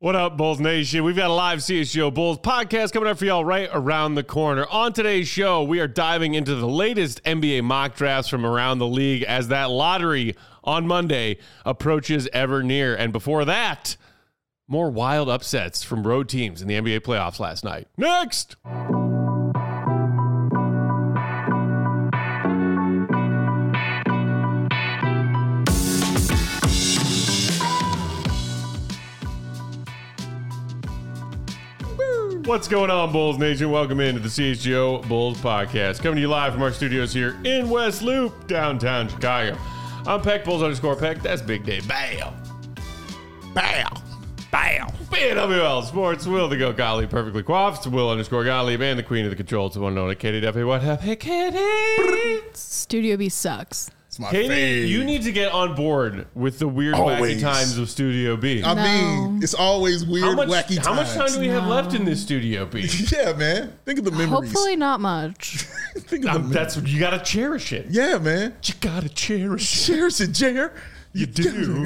What up, Bulls Nation? We've got a live CHGO Bulls podcast coming up for y'all right around the corner. On today's show, we are diving into the latest NBA mock drafts from around the league as that lottery on Monday approaches ever near. And before that, more wild upsets from road teams in the NBA playoffs last night. Next! What's going on, Bulls Nation? Welcome into the CHGO Bulls podcast. Coming to you live from our studios here in West Loop, downtown Chicago. I'm Peck, Bulls _ Peck. That's Big Dave. Bow. Bow. Bow. BWL Sports. Will the Go Gottlieb perfectly coiffed. Will _ Gottlieb and the queen of the controls, the one known as Katie Duffy. What up? Hey, Katie. Studio B sucks. Katie, you need to get on board with the weird, wacky times of Studio B. I mean, it's always weird, wacky times. How much time do we have left in this Studio B? Yeah, man. Think of the memories. Hopefully not much. Think of the That's you gotta cherish it. Yeah, man. You gotta cherish it. Cherish it, Jer. You do.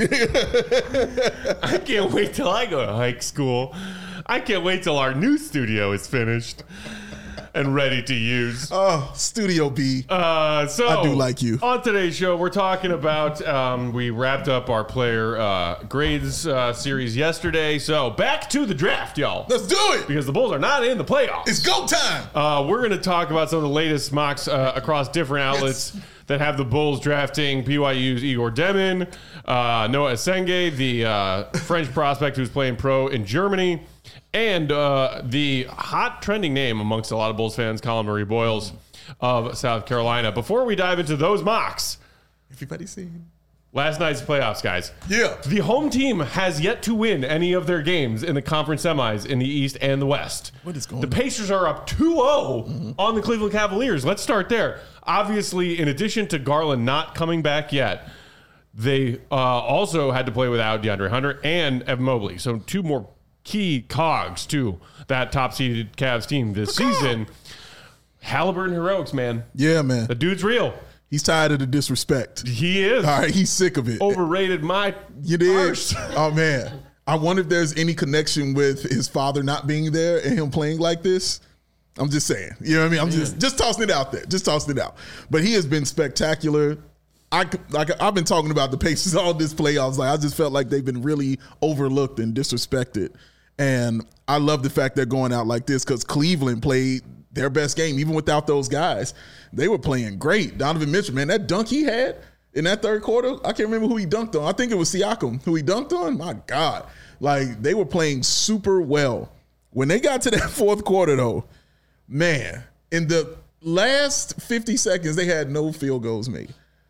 I can't wait till I go to hike school. I can't wait till our new studio is finished and ready to use. Oh, Studio B. So I do like you. On today's show, we're talking about, we wrapped up our player grades series yesterday. So back to the draft, y'all. Let's do it. Because the Bulls are not in the playoffs. It's go time. We're going to talk about some of the latest mocks across different outlets that have the Bulls drafting BYU's Igor Demin, Noah Esenge, the French prospect who's playing pro in Germany, and the hot trending name amongst a lot of Bulls fans, Colin Murray Boyles of South Carolina. Before we dive into those mocks, everybody seen last night's playoffs, guys. Yeah. The home team has yet to win any of their games in the conference semis in the East and the West. What is going on? The on? Pacers are up 2-0 on the Cleveland Cavaliers. Let's start there. Obviously, in addition to Garland not coming back yet, they also had to play without DeAndre Hunter and Evan Mobley. So two more key cogs to that top-seeded Cavs team this season. Halliburton heroics, man. Yeah, man. The dude's real. He's tired of the disrespect. He is. All right, he's sick of it. Overrated my You did. arse. Oh, man. I wonder if there's any connection with his father not being there and him playing like this. I'm just saying. You know what I mean? I'm just tossing it out there. Just tossing it out. But he has been spectacular. I've been talking about the Pacers all this playoffs. Like, I just felt like they've been really overlooked and disrespected. And I love the fact they're going out like this because Cleveland played their best game, even without those guys. They were playing great. Donovan Mitchell, man, that dunk he had in that third quarter, I can't remember who he dunked on. I think it was Siakam who he dunked on. My God. Like, they were playing super well. When they got to that fourth quarter, though, man, in the last 50 seconds, they had no field goals made.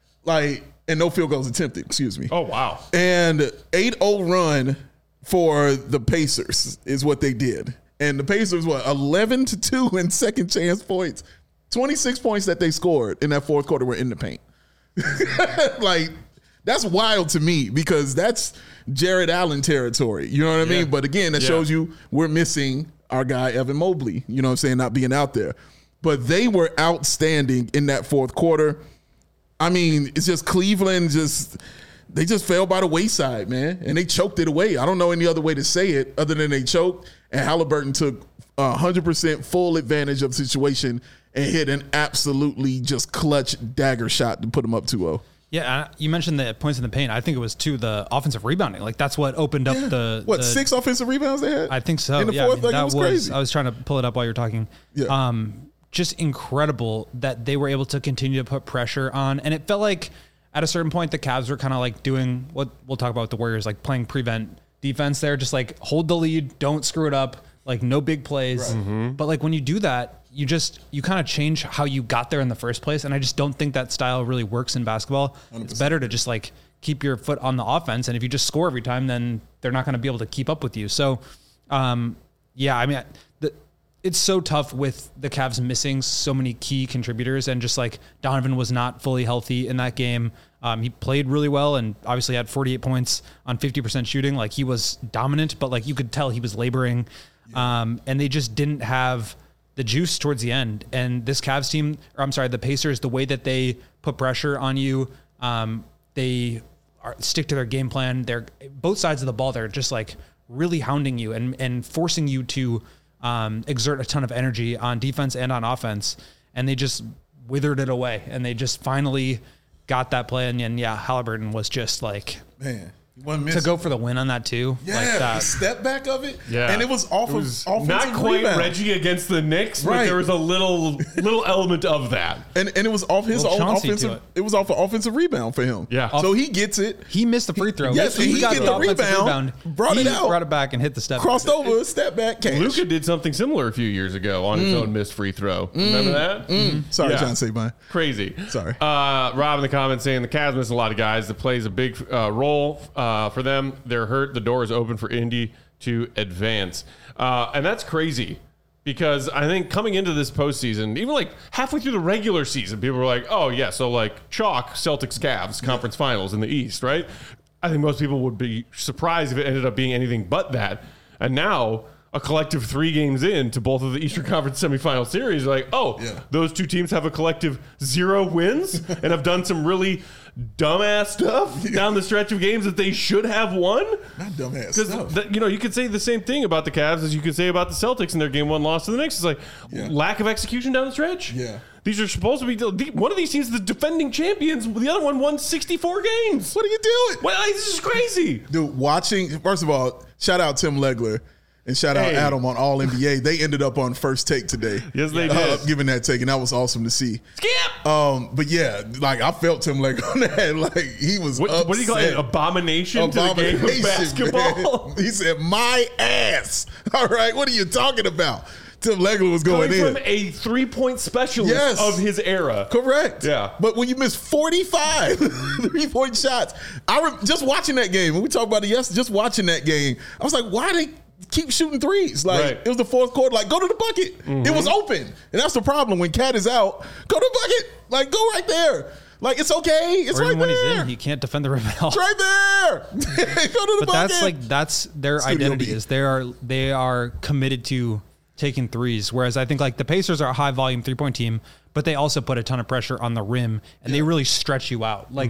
And no field goals attempted, excuse me. Oh, wow. And 8-0 run for the Pacers is what they did. And the Pacers, 11-2 in second chance points. 26 points that they scored in that fourth quarter were in the paint. Like, that's wild to me because that's Jared Allen territory. You know what I mean? But again, that shows you we're missing our guy, Evan Mobley, you know what I'm saying, not being out there. But they were outstanding in that fourth quarter. I mean, it's just Cleveland they just fell by the wayside, man. And they choked it away. I don't know any other way to say it other than they choked. And Halliburton took 100% full advantage of the situation and hit an absolutely just clutch dagger shot to put them up 2-0. Yeah, you mentioned the points in the paint. I think it was the offensive rebounding. Like, that's what opened up the 6 offensive rebounds they had? I think so. In the fourth, that it was crazy. I was trying to pull it up while you were talking. Yeah. Just incredible that they were able to continue to put pressure on. And it felt like at a certain point, the Cavs were kind of like doing what we'll talk about with the Warriors, like playing prevent defense there. Just like hold the lead, don't screw it up, like no big plays. Right. Mm-hmm. But like when you do that, you kind of change how you got there in the first place. And I just don't think that style really works in basketball. 100%. It's better to just like keep your foot on the offense. And if you just score every time, then they're not going to be able to keep up with you. So, yeah, I mean, it's so tough with the Cavs missing so many key contributors, and just like Donovan was not fully healthy in that game. He played really well and obviously had 48 points on 50% shooting. Like, he was dominant, but like you could tell he was laboring. And they just didn't have the juice towards the end. And this Cavs team, the Pacers, the way that they put pressure on you, they stick to their game plan. They're both sides of the ball. They're just like really hounding you and forcing you to exert a ton of energy on defense and on offense. And they just withered it away. And they just finally got that play. And yeah, Halliburton was just like, man. To go for the win on that too. Yeah, like the step back of it. Yeah. And it was off of offensive not quite rebound. Reggie against the Knicks, Right. but there was a little element of that. And it was off his Little own Chauncey to offensive. it. It was off an offensive rebound for him. Yeah. So he gets it. He missed the free throw. Yes, So he got get the offensive rebound, brought it out. brought it back and hit the step. Crossed over, step back, cash. Luka did something similar a few years ago on his own missed free throw. Remember that? Sorry, Yeah. John Sabine. Crazy. Sorry. Rob in the comments saying the Cavs miss a lot of guys. That plays a big role for them. They're hurt. The door is open for Indy to advance. And that's crazy because I think coming into this postseason, even like halfway through the regular season, people were like, oh, yeah, so like chalk Celtics Cavs conference finals in the East, right? I think most people would be surprised if it ended up being anything but that. And now a collective 3 games into both of the Eastern Conference semifinal series, like, oh, those two teams have a collective 0 wins and have done some really dumbass stuff down the stretch of games that they should have won. Not dumbass stuff. Because you could say the same thing about the Cavs as you could say about the Celtics in their game 1 loss to the Knicks. It's like lack of execution down the stretch. Yeah. These are supposed to be one of these teams is the defending champions. The other one won 64 games. What are you doing? Well, this is crazy. Dude, watching, first of all, shout out Tim Legler and shout out Hey. Adam on All NBA. They ended up on First Take today. Yes, they did. Giving that take, and that was awesome to see. Skip. But yeah, like I felt Tim Legler on that. Like he was What do you call it? upset. Abomination to the game of basketball. Man. He said, my ass. All right, what are you talking about? Tim Legler was going Coming in. from a 3-point specialist Yes. of his era. Correct. Yeah. But when you miss 45 3-point shots, just watching that game, when we talked about it yesterday, just watching that game, I was like, why they keep shooting threes? Like, Right. it was the fourth quarter, like, go to the bucket. It was open. And that's the problem. When Cat is out, go to the bucket. Like, go right there. Like, it's okay. It's Or right even when there. he's in, he can't defend the rim at all. It's right there. Go to the But bucket. that's their Studio identity B. is they are committed to taking threes. Whereas I think like the Pacers are a high volume 3-point team, but they also put a ton of pressure on the rim and they really stretch you out. Like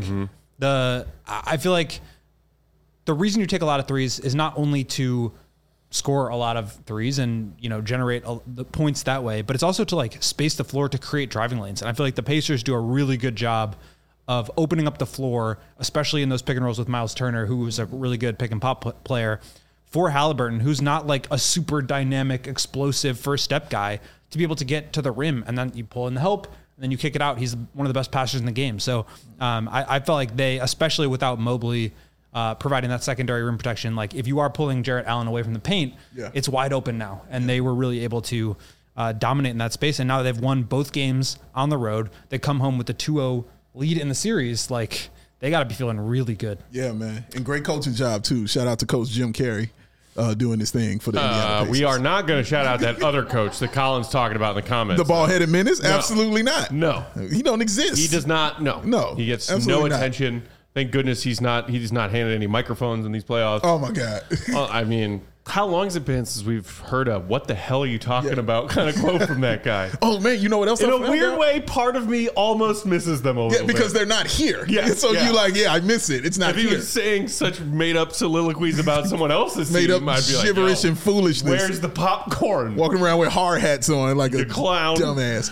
I feel like the reason you take a lot of threes is not only to score a lot of threes and, generate the points that way, but it's also to like space the floor to create driving lanes. And I feel like the Pacers do a really good job of opening up the floor, especially in those pick and rolls with Miles Turner, who is a really good pick and pop player, for Halliburton, who's not like a super dynamic, explosive first step guy, to be able to get to the rim. And then you pull in the help and then you kick it out. He's one of the best passers in the game. So I felt like they, especially without Mobley, providing that secondary rim protection, like if you are pulling Jarrett Allen away from the paint, it's wide open now. And they were really able to dominate in that space. And now they've won both games on the road. They come home with the 2-0 lead in the series. Like they got to be feeling really good. Yeah, man. And great coaching job, too. Shout out to Coach Jim Carey doing this thing for the Indiana Pacers. We are not going to shout out that other coach that Colin's talking about in the comments. The ball-headed menace? Absolutely not. No. He don't exist. He does not. No. He gets no absolutely not. attention. Thank goodness he's not handed any microphones in these playoffs. Oh, my God. Well, I mean, how long has it been since we've heard a "what the hell are you talking about" kind of quote from that guy? Oh, man, you know what else? In I a found weird out? way, part of me almost misses them a Yeah, little because bit. they're not here. Yeah, So yeah. you like, I miss it. It's not If he here. was saying such made-up soliloquies about someone else's Made team, up I'd be like, gibberish "Yo, and foolishness. where's the popcorn?" Walking around with hard hats on like a clown. dumbass.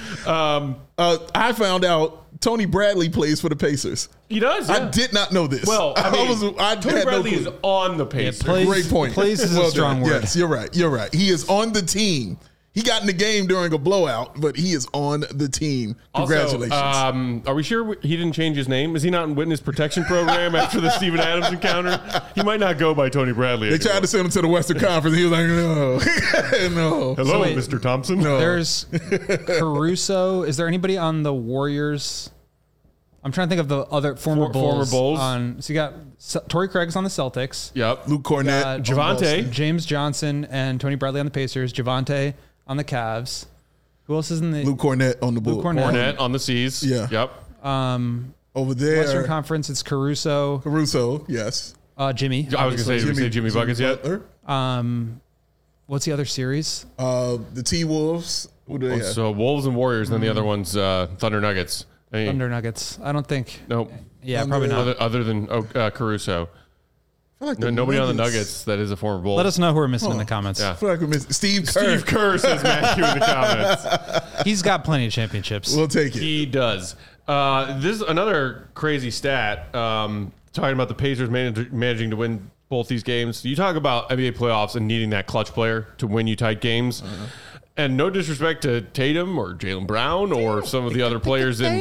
Um, I found out Tony Bradley plays for the Pacers. He does. Yeah. I did not know this. Well, I mean, I Tony had Bradley no is clue. on the Pacers. plays- Great point. Plays is a strong done. word. Yes, you're right. You're right. He is on the team. He got in the game during a blowout, but he is on the team. Congratulations. Also, are we sure he didn't change his name? Is he not in witness protection program after the Steven Adams encounter? He might not go by Tony Bradley. they tried to send him to the Western Conference. He was like, no, no. Hello, So wait, Mr. Thompson. No. There's Caruso. Is there anybody on the Warriors? I'm trying to think of the other former Bulls. Bulls. So you got Torrey Craig's on the Celtics. Yep. Luke Cornett. on Javante. Boston. James Johnson and Tony Bradley on the Pacers. Javante on the Cavs. Who else is in the Luke Cornett on the Bulls. Cornett. Cornette on the Seas. Yeah. Yep. Over there. Western Conference? It's Caruso, Caruso, yes. Jimmy. I was going to say, did we say Jimmy Buckets yet? Butler. What's the other series? The T-Wolves. Who do they have? So Wolves and Warriors, and then the other one's Thunder Nuggets. I mean, Thunder Nuggets. I don't think. Nope. Yeah, probably not. Other than Caruso. I like Nobody on the Nuggets that is a former Bull. Let us know who we're missing in the comments. Yeah. I feel like we missed Steve Kerr. Steve Kerr says Matthew in the comments. He's got plenty of championships. We'll take it. He does. This is another crazy stat. Talking about the Pacers managing to win both these games. You talk about NBA playoffs and needing that clutch player to win you tight games. And no disrespect to Tatum or Jaylen Brown or some of the other players in,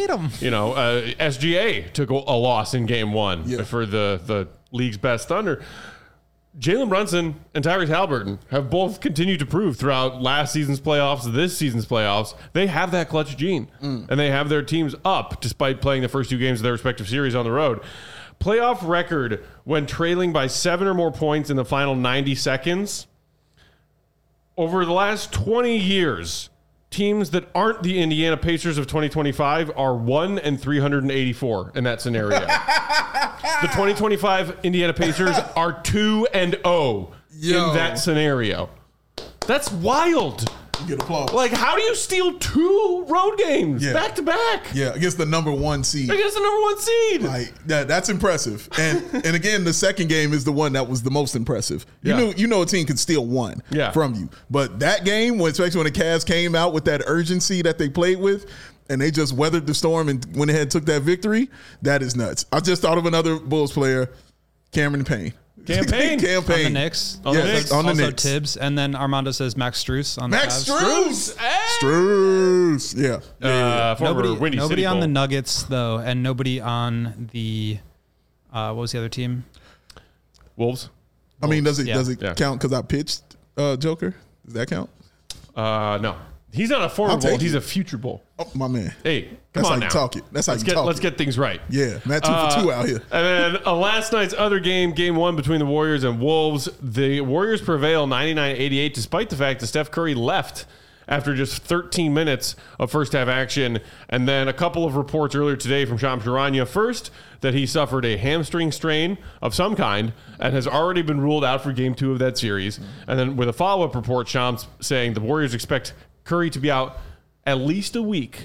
SGA took a loss in game one for the league's best Thunder. Jalen Brunson and Tyrese Halliburton have both continued to prove throughout last season's playoffs, this season's playoffs, they have that clutch gene. And they have their teams up despite playing the first 2 games of their respective series on the road. Playoff record when trailing by 7 or more points in the final 90 seconds. Over the last 20 years, teams that aren't the Indiana Pacers of 2025 are 1-384 in that scenario. The 2025 Indiana Pacers are 2-0 in that scenario. That's wild. You get applause. Like, how do you steal 2 road games back to back? Yeah, against the number 1 seed. Against the number 1 seed. Like that's impressive. And again, the second game is the one that was the most impressive. You know a team could steal 1 from you. But that game, especially when the Cavs came out with that urgency that they played with, and they just weathered the storm and went ahead and took that victory, that is nuts. I just thought of another Bulls player, Cameron Payne. Campaign. On the Knicks. On the Knicks. Also Tibbs. And then Armando says Max Strus on the Max Cavs. Strus. Yeah. Nobody on the Nuggets, though, and nobody on the what was the other team? Wolves. I mean, does it count because I pitched Joker? Does that count? No. He's not a former Bull. He's a future Bull. Oh, my man. Hey, That's come how on you now. talk it. That's how you talk Let's get things right. Yeah, Matt 2 for 2 out here. And then last night's other game, game 1 between the Warriors and Wolves. The Warriors prevail 99-88 despite the fact that Steph Curry left after just 13 minutes of first half action. And then a couple of reports earlier today from Shams Charania. First, that he suffered a hamstring strain of some kind and has already been ruled out for game 2 of that series. And then with a follow-up report, Shams saying the Warriors expect Curry to be out at least a week.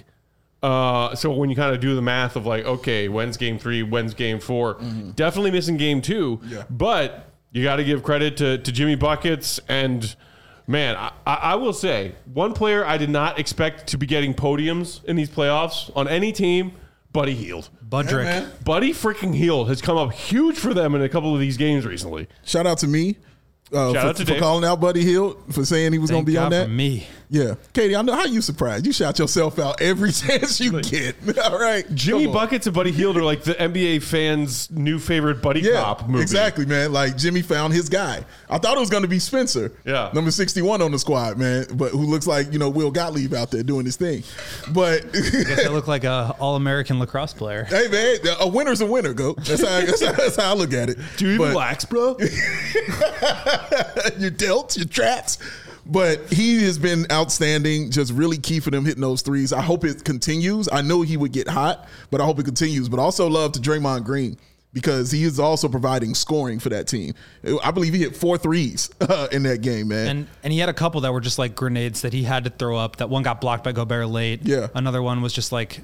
So when you kind of do the math of like, okay, when's game 3, when's game 4, definitely missing game 2. Yeah. But you got to give credit to Jimmy Buckets. And man, I will say one player I did not expect to be getting podiums in these playoffs on any team, Buddy Hield. Budrick. Hey, Buddy freaking Hield has come up huge for them in a couple of these games recently. Shout out to me. For calling out Buddy Hield, for saying he was going to be on that. For me. Yeah. Katie, I know how you surprised. You shout yourself out every chance you get. All right. Jimmy Buckets and Buddy Hield are like the NBA fans' new favorite buddy cop movie. Exactly, man. Like Jimmy found his guy. I thought it was going to be Spencer. Yeah. Number 61 on the squad, man. But who looks like, Will Gottlieb out there doing his thing. But I guess they look like a all-American lacrosse player. Hey, man, a winner's a winner, go. That's how I look at it. Do you relax, bro? Your delts, your traps. But he has been outstanding, just really key for them hitting those threes. I hope it continues. I know he would get hot, but I hope it continues. But also love to Draymond Green because he is also providing scoring for that team. I believe he hit 4 threes in that game, man. And he had a couple that were just like grenades that he had to throw up. That one got blocked by Gobert late. Yeah. Another one was somebody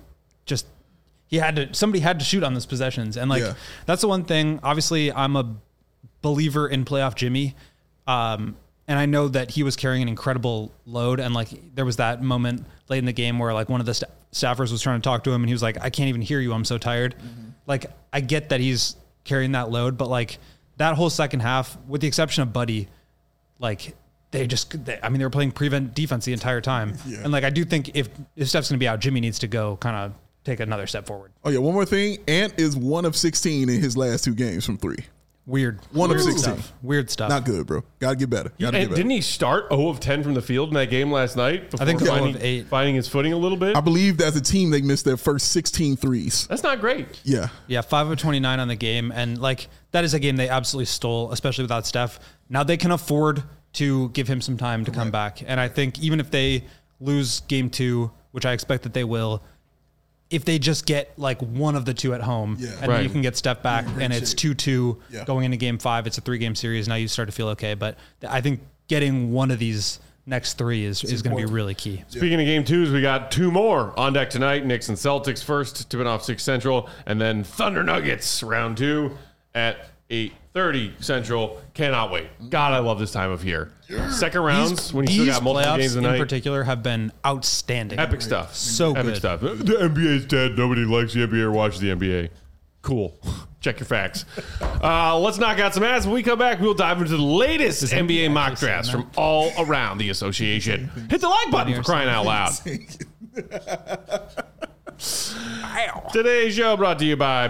had to shoot on those possessions. And that's the one thing. Obviously, I'm a believer in playoff Jimmy. And I know that he was carrying an incredible load. And there was that moment late in the game where one of the staffers was trying to talk to him and he was like, I can't even hear you. I'm so tired. Mm-hmm. I get that he's carrying that load, but that whole second half, with the exception of Buddy, they were playing prevent defense the entire time. Yeah. And I do think if Steph's going to be out, Jimmy needs to go kind of take another step forward. Oh yeah. One more thing. Ant is 1 of 16 in his last 2 games from 3. Weird. 1 of 16. Weird stuff. Not good, bro. Gotta get better. Didn't he start 0 of 10 from the field in that game last night? I think 0 of 8. Finding his footing a little bit. I believe as a team they missed their first 16 threes. That's not great. Yeah. Yeah. 5 of 29 on the game, and that is a game they absolutely stole, especially without Steph. Now they can afford to give him some time to come back, and I think even if they lose game 2, which I expect that they will. If they just get one of the 2 at home, and then you can get Steph back, and it's 2-2 going into game 5. It's a 3-game series. Now you start to feel okay. But I think getting one of these next 3 is going to be really key. Speaking of game 2s, we got 2 more on deck tonight. Knicks and Celtics first, tipping off 6 Central, and then Thunder Nuggets round 2 at 30 Central. Cannot wait. God, I love this time of year. Second rounds when you still These got multiple playoffs games a in night. particular have been outstanding. Epic stuff. So Epic good. stuff. The NBA's dead. Nobody likes the NBA or watches the NBA. Cool. Check your facts. Let's knock out some ass. When we come back, we'll dive into the latest NBA mock drafts from all around the association. Hit the like button for crying out loud. Today's show brought to you by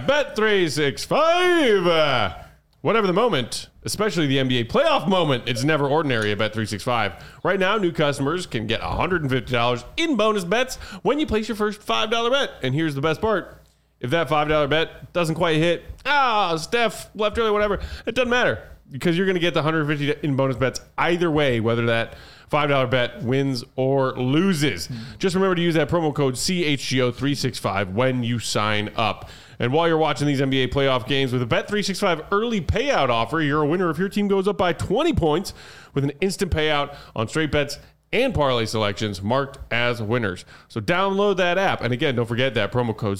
Bet365. Whatever the moment, especially the NBA playoff moment, it's never ordinary at Bet365. Right now, new customers can get $150 in bonus bets when you place your first $5 bet. And here's the best part. If that $5 bet doesn't quite hit, Steph left early, whatever, it doesn't matter because you're going to get the $150 in bonus bets either way, whether that $5 bet wins or loses. Just remember to use that promo code CHGO365 when you sign up. And while you're watching these NBA playoff games with a Bet365 early payout offer, you're a winner if your team goes up by 20 points with an instant payout on straight bets and parlay selections marked as winners. So download that app. And again, don't forget that promo code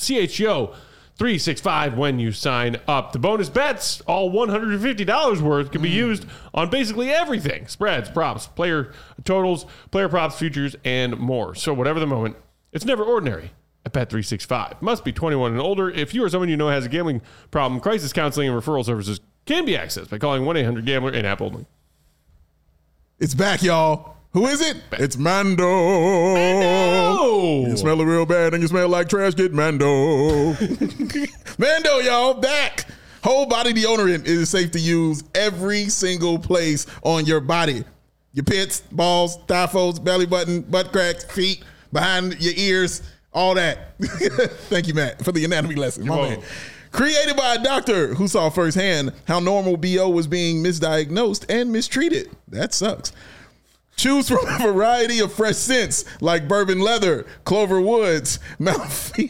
CHGO365 when you sign up. The bonus bets, all $150 worth, can be used on basically everything. Spreads, props, player totals, player props, futures, and more. So whatever the moment, it's never ordinary at Bet365. Must be 21 and older. If you or someone you know has a gambling problem, crisis counseling and referral services can be accessed by calling 1-800-GAMBLER and app only. It's back, y'all. Who is it? It's Mando. Mando! You smell it real bad and you smell like trash, get Mando. Mando, y'all, back. Whole body deodorant is safe to use every single place on your body. Your pits, balls, thigh folds, belly button, butt cracks, feet, behind your ears, all that. Thank you, Matt, for the anatomy lesson. My man. Created by a doctor who saw firsthand how normal BO was being misdiagnosed and mistreated. That sucks. Choose from a variety of fresh scents like bourbon leather, Clover Woods, Mount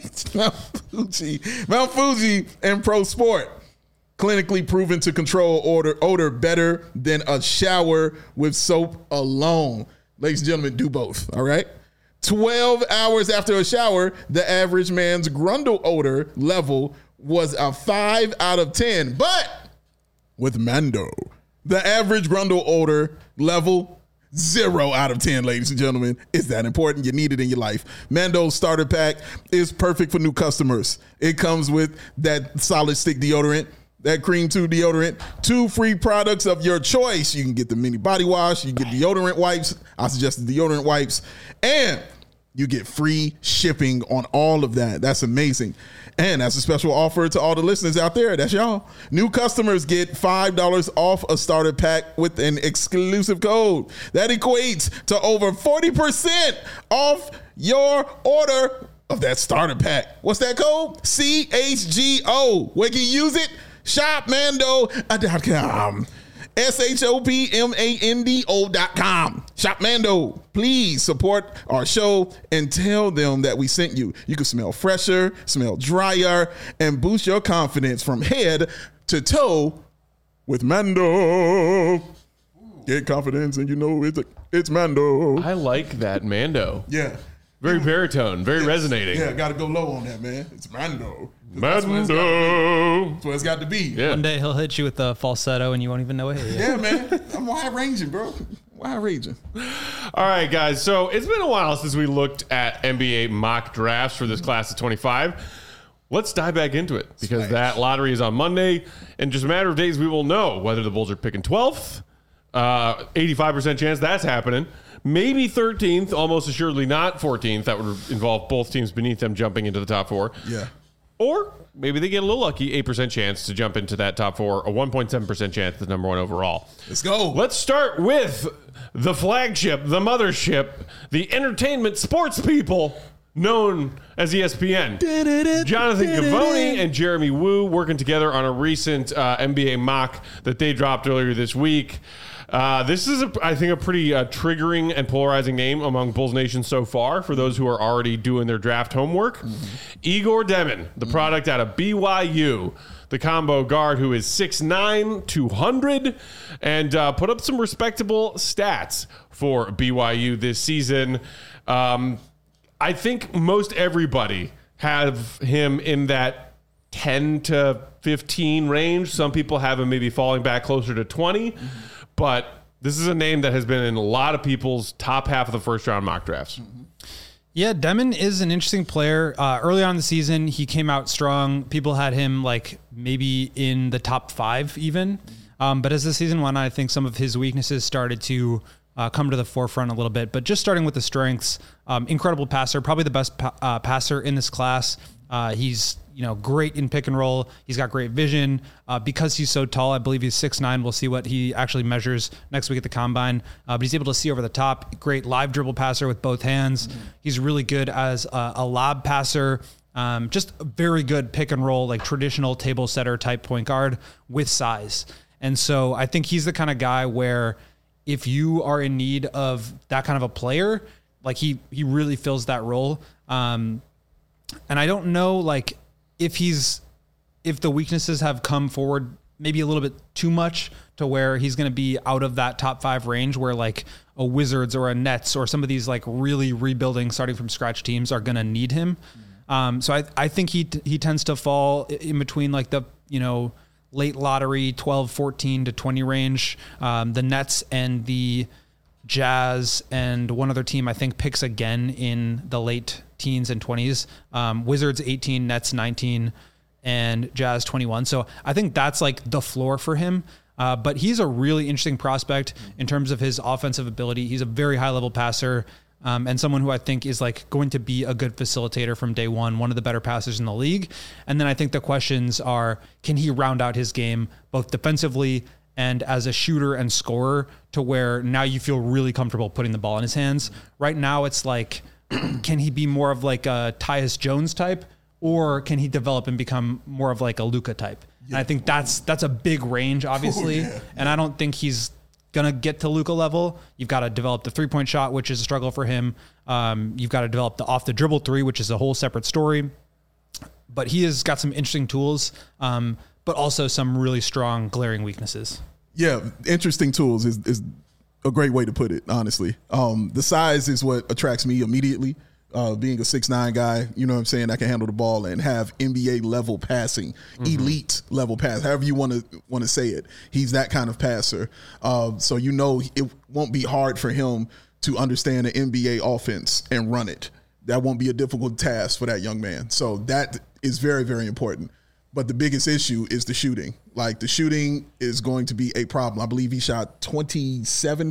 Fuji, and Pro Sport. Clinically proven to control odor better than a shower with soap alone. Ladies and gentlemen, do both, all right? 12 hours after a shower, the average man's grundle odor level was a 5 out of 10. But with Mando, the average grundle odor level 0 out of 10, ladies and gentlemen. Is that important? You need it in your life. Mando's starter pack is perfect for new customers. It comes with that solid stick deodorant, that cream 2 deodorant, 2 free products of your choice. You can get the mini body wash, you get deodorant wipes. I suggest the deodorant wipes, and you get free shipping on all of that. That's amazing. And that's a special offer to all the listeners out there. That's y'all. New customers get $5 off a starter pack with an exclusive code. That equates to over 40% off your order of that starter pack. What's that code? CHGO. Where can you use it? ShopMando.com. ShopMando.com. Shop Mando. Please support our show and tell them that we sent you. You can smell fresher, smell drier, and boost your confidence from head to toe with Mando. Get confidence and you know it's Mando. I like that Mando. Yeah. Very baritone, very resonating. Yeah, got to go low on that, man. It's Mando. Mando. That's what it's got to be. Yeah. One day he'll hit you with the falsetto and you won't even know it. Yeah, man. I'm wide ranging, bro. Wide ranging. All right, guys. So it's been a while since we looked at NBA mock drafts for this class of 25. Let's dive back into it because that lottery is on Monday. In just a matter of days, we will know whether the Bulls are picking 12th. 85% chance that's happening. Maybe 13th, almost assuredly not 14th. That would involve both teams beneath them jumping into the top 4. Yeah. Or maybe they get a little lucky, 8% chance to jump into that top 4, a 1.7% chance at number 1 overall. Let's go. Let's start with the flagship, the mothership, the entertainment sports people known as ESPN. Jonathan Givony and Jeremy Woo working together on a recent NBA mock that they dropped earlier this week. This is, I think, a pretty triggering and polarizing name among Bulls Nation so far for those who are already doing their draft homework. Igor Demon, the product out of BYU, the combo guard who is 6'9", 200, and put up some respectable stats for BYU this season. I think most everybody have him in that 10 to 15 range. Some people have him maybe falling back closer to 20. But this is a name that has been in a lot of people's top half of the first round mock drafts. Yeah, Demon is an interesting player. Early on in the season, he came out strong. People had him like maybe in the top 5 even. But as the season went on, I think some of his weaknesses started to come to the forefront a little bit. But just starting with the strengths, incredible passer, probably the best passer in this class. He's great in pick and roll. He's got great vision. Because he's so tall, I believe he's 6'9". We'll see what he actually measures next week at the combine. But he's able to see over the top. Great live dribble passer with both hands. He's really good as a lob passer. Just a very good pick and roll, like traditional table setter type point guard with size. And so I think he's the kind of guy where if you are in need of that kind of a player, like he really fills that role. And I don't know, like if the weaknesses have come forward maybe a little bit too much to where he's going to be out of that top 5 range where like a Wizards or a Nets or some of these like really rebuilding starting from scratch teams are going to need him. So I think he tends to fall in between like the, late lottery 12, 14 to 20 range. The Nets and the Jazz and one other team, I think, picks again in the late teens and 20s. Wizards 18, Nets 19, and Jazz 21. So I think that's like the floor for him. But he's a really interesting prospect in terms of his offensive ability. He's a very high level passer. And someone who I think is like going to be a good facilitator from day one of the better passers in the league. And then I think the questions are, can he round out his game both defensively and as a shooter and scorer to where now you feel really comfortable putting the ball in his hands? Right now it's like, can he be more of like a Tyus Jones type, or can he develop and become more of like a Luka type? Yeah. And I think that's a big range, obviously. Yeah. And I don't think he's going to get to Luka level. You've got to develop the 3-point shot, which is a struggle for him. You've got to develop the off the dribble 3, which is a whole separate story. But he has got some interesting tools, but also some really strong glaring weaknesses. Yeah, interesting tools is a great way to put it, honestly. The size is what attracts me immediately. Being a 6'9" guy, you know what I'm saying, that can handle the ball and have NBA level passing, elite level pass, however you want to say it. He's that kind of passer. So it won't be hard for him to understand an NBA offense and run it. That won't be a difficult task for that young man. So that is very, very important. But the biggest issue is the shooting. Like, the shooting is going to be a problem. I believe he shot 27%.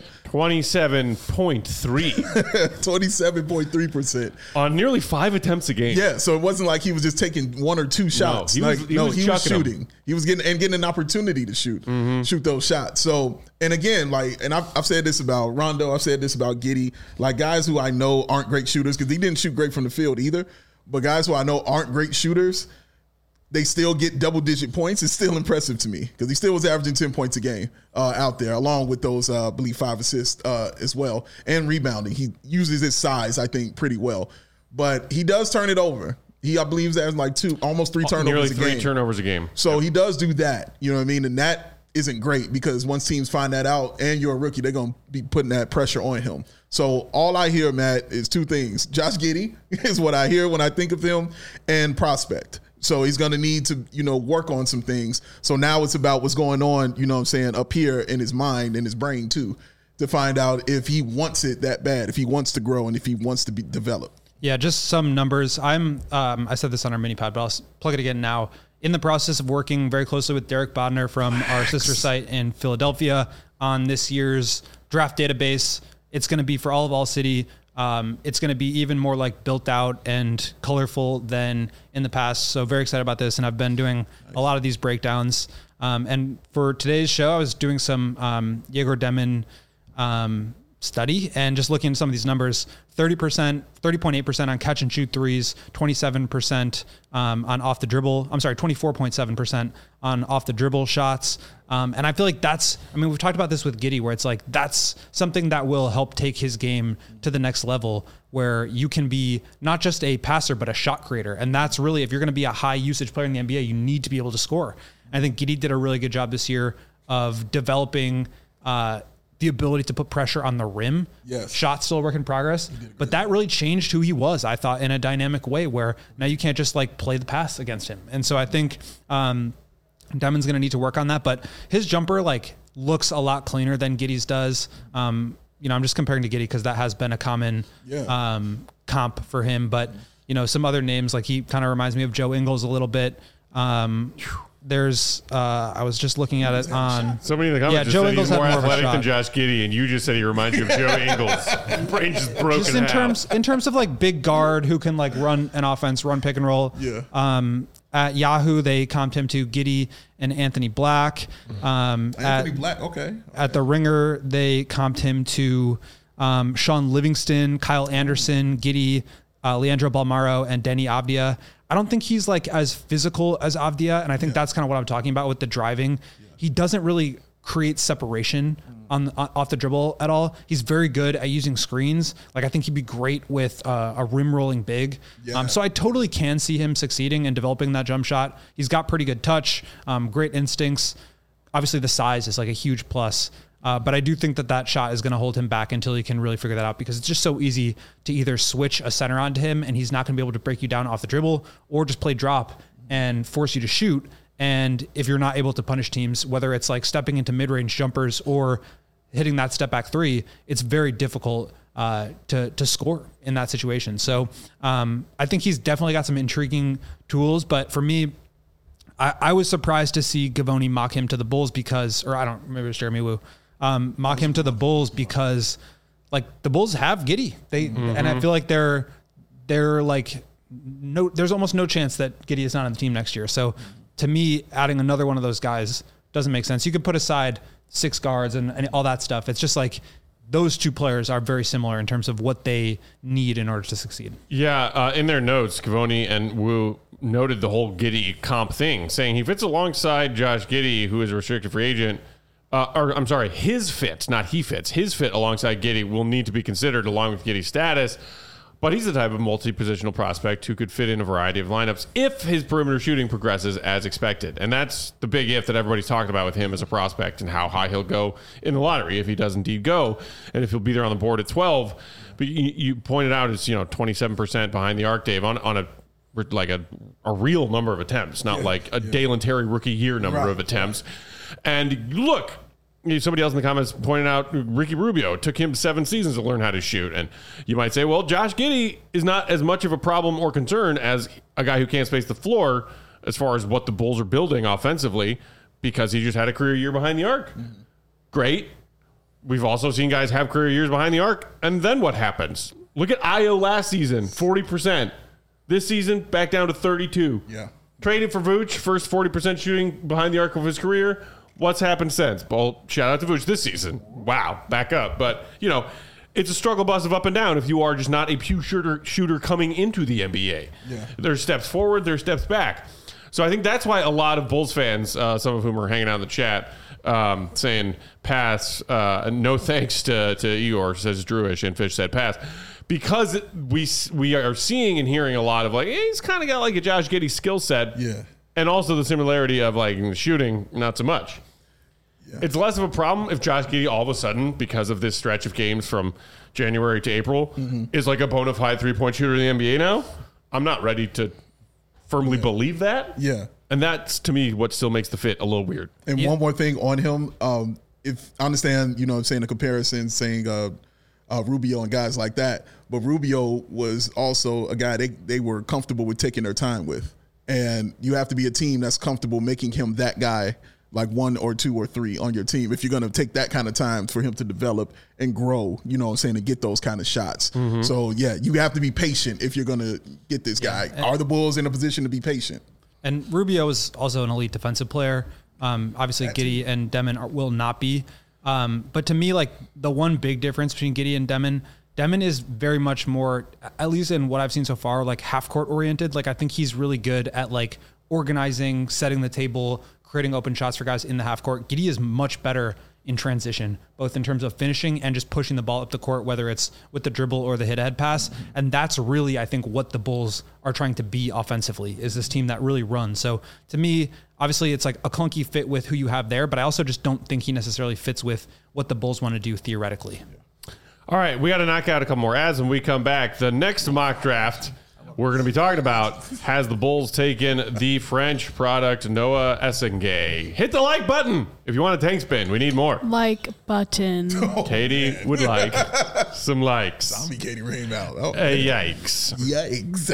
27.3. 27.3%. On nearly 5 attempts a game. Yeah, so it wasn't like he was just taking 1 or 2 shots. No, he was shooting. Them. He was getting an opportunity to shoot those shots. So, and again, I've said this about Rondo, I've said this about Giddey, like guys who I know aren't great shooters, because he didn't shoot great from the field either, but guys who I know aren't great shooters, they still get double-digit points. It's still impressive to me because he still was averaging 10 points a game out there, along with those, I believe, 5 assists as well, and rebounding. He uses his size, I think, pretty well. But he does turn it over. I believe he's having like almost 3 turnovers nearly a game. Nearly 3 turnovers a game. So he does do that, you know what I mean? And that isn't great because once teams find that out and you're a rookie, they're going to be putting that pressure on him. So all I hear, Matt, is 2 things. Josh Giddey is what I hear when I think of him, and prospect. So he's going to need to, work on some things. So now it's about what's going on, up here in his mind and his brain too, to find out if he wants it that bad, if he wants to grow and if he wants to be developed. Yeah, just some numbers. I said this on our mini pod, but I'll plug it again now. In the process of working very closely with Derek Bodner from our sister site in Philadelphia on this year's draft database. It's going to be for all of All City. It's going to be even more like built out and colorful than in the past. So very excited about this. And I've been doing a lot of these breakdowns. And for today's show, I was doing some Yegor Demon study and just looking at some of these numbers. 30.8% on catch and shoot threes, 27% on off the dribble. 24.7% on off the dribble shots. And I feel like we've talked about this with Giddey, where it's like, that's something that will help take his game to the next level, where you can be not just a passer, but a shot creator. And that's really, if you're going to be a high usage player in the NBA, you need to be able to score. I think Giddey did a really good job this year of developing, the ability to put pressure on the rim. Yes. Shot still a work in progress. But that really changed who he was, I thought, in a dynamic way where now you can't just like play the pass against him. And so I think Demon's going to need to work on that. But his jumper like looks a lot cleaner than Giddey's does. I'm just comparing to Giddey because that has been a common comp for him. But, some other names, like he kind of reminds me of Joe Ingles a little bit. There's, I was just looking at it on somebody in the comments Joe said Ingles he's more had more of a athletic than shot. Josh Giddey, and you just said he reminds you of Joe Ingles. Brain just broken. Just in terms of like big guard who can like run an offense, run pick and roll. Yeah. At Yahoo, they comped him to Giddey and Anthony Black. Anthony Black, okay. At the Ringer, they comped him to Sean Livingston, Kyle Anderson, Giddey, Leandro Balmaro, and Denny Avdia. I don't think he's like as physical as Avdia, and I think that's kind of what I'm talking about with the driving. Yeah. He doesn't really create separation off the dribble at all. He's very good at using screens. Like I think he'd be great with a rim rolling big. Yeah. So I totally can see him succeeding and developing that jump shot. He's got pretty good touch, great instincts. Obviously the size is like a huge plus. But I do think that shot is going to hold him back until he can really figure that out because it's just so easy to either switch a center onto him and he's not going to be able to break you down off the dribble or just play drop and force you to shoot. And if you're not able to punish teams, whether it's like stepping into mid-range jumpers or hitting that step back three, it's very difficult to score in that situation. So I think he's definitely got some intriguing tools. But for me, I was surprised to see Gavoni mock him to the Bulls because, or I don't remember, it was Jeremy Wu. Mock him to the Bulls because like the Bulls have Giddey. And I feel like they're like there's almost no chance that Giddey is not on the team next year. So to me, adding another one of those guys doesn't make sense. You could put aside 6 guards and all that stuff. It's just like those two players are very similar in terms of what they need in order to succeed. Yeah, in their notes, Gavoni and Wu noted the whole Giddey comp thing, saying he fits alongside Josh Giddey, who is a restricted free agent. His fit, not he fits. His fit alongside Giddey will need to be considered along with Giddey's status. But he's the type of multi-positional prospect who could fit in a variety of lineups if his perimeter shooting progresses as expected. And that's the big if that everybody's talking about with him as a prospect and how high he'll go in the lottery if he does indeed go and if he'll be there on the board at 12. But you pointed out it's 27% behind the arc, Dave, on a real number of attempts, not like a Dalen Terry rookie year number of attempts. And look, somebody else in the comments pointed out Ricky Rubio. It took him 7 seasons to learn how to shoot. And you might say, well, Josh Giddey is not as much of a problem or concern as a guy who can't space the floor as far as what the Bulls are building offensively because he just had a career year behind the arc. Mm-hmm. Great. We've also seen guys have career years behind the arc. And then what happens? Look at Ayo last season, 40%. This season, back down to 32. Yeah. Traded for Vooch, first 40% shooting behind the arc of his career. What's happened since? Well, shout out to Vooch this season. Wow, back up. But, it's a struggle bus of up and down if you are just not a pure shooter coming into the NBA. Yeah. There's steps forward, there's steps back. So I think that's why a lot of Bulls fans, some of whom are hanging out in the chat, saying pass, no thanks to Eeyore, says Drewish, and Fish said pass. Because we are seeing and hearing a lot of like, he's kind of got like a Josh Giddey skill set. Yeah. And also the similarity of like the shooting, not so much. Yeah. It's less of a problem if Josh Giddey all of a sudden, because of this stretch of games from January to April, is like a bona fide 3-point shooter in the NBA now. I'm not ready to firmly believe that. Yeah. And that's, to me, what still makes the fit a little weird. And one more thing on him. If I understand, I'm saying a comparison, saying Rubio and guys like that, but Rubio was also a guy they were comfortable with taking their time with. And you have to be a team that's comfortable making him that guy, like 1 or 2 or 3 on your team. If you're going to take that kind of time for him to develop and grow, to get those kind of shots. Mm-hmm. So, you have to be patient if you're going to get this guy. Are the Bulls in a position to be patient? And Rubio is also an elite defensive player. Obviously, Giddey and Demon will not be. But to me, like the one big difference between Giddey and Demon is very much more, at least in what I've seen so far, like half court oriented. Like I think he's really good at like organizing, setting the table, creating open shots for guys in the half court. Giddey is much better in transition, both in terms of finishing and just pushing the ball up the court, whether it's with the dribble or the hit-ahead pass. And that's really, I think, what the Bulls are trying to be offensively, is this team that really runs. So to me, obviously it's like a clunky fit with who you have there, but I also just don't think he necessarily fits with what the Bulls want to do theoretically. All right, we got to knock out a couple more ads when we come back. The next mock draft we're going to be talking about has the Bulls taken the French product Noah Essengay. Hit the like button if you want a tank spin. We need more. Like button. Katie would like some likes. Zombie Katie Rain out. Oh, Yikes. yikes.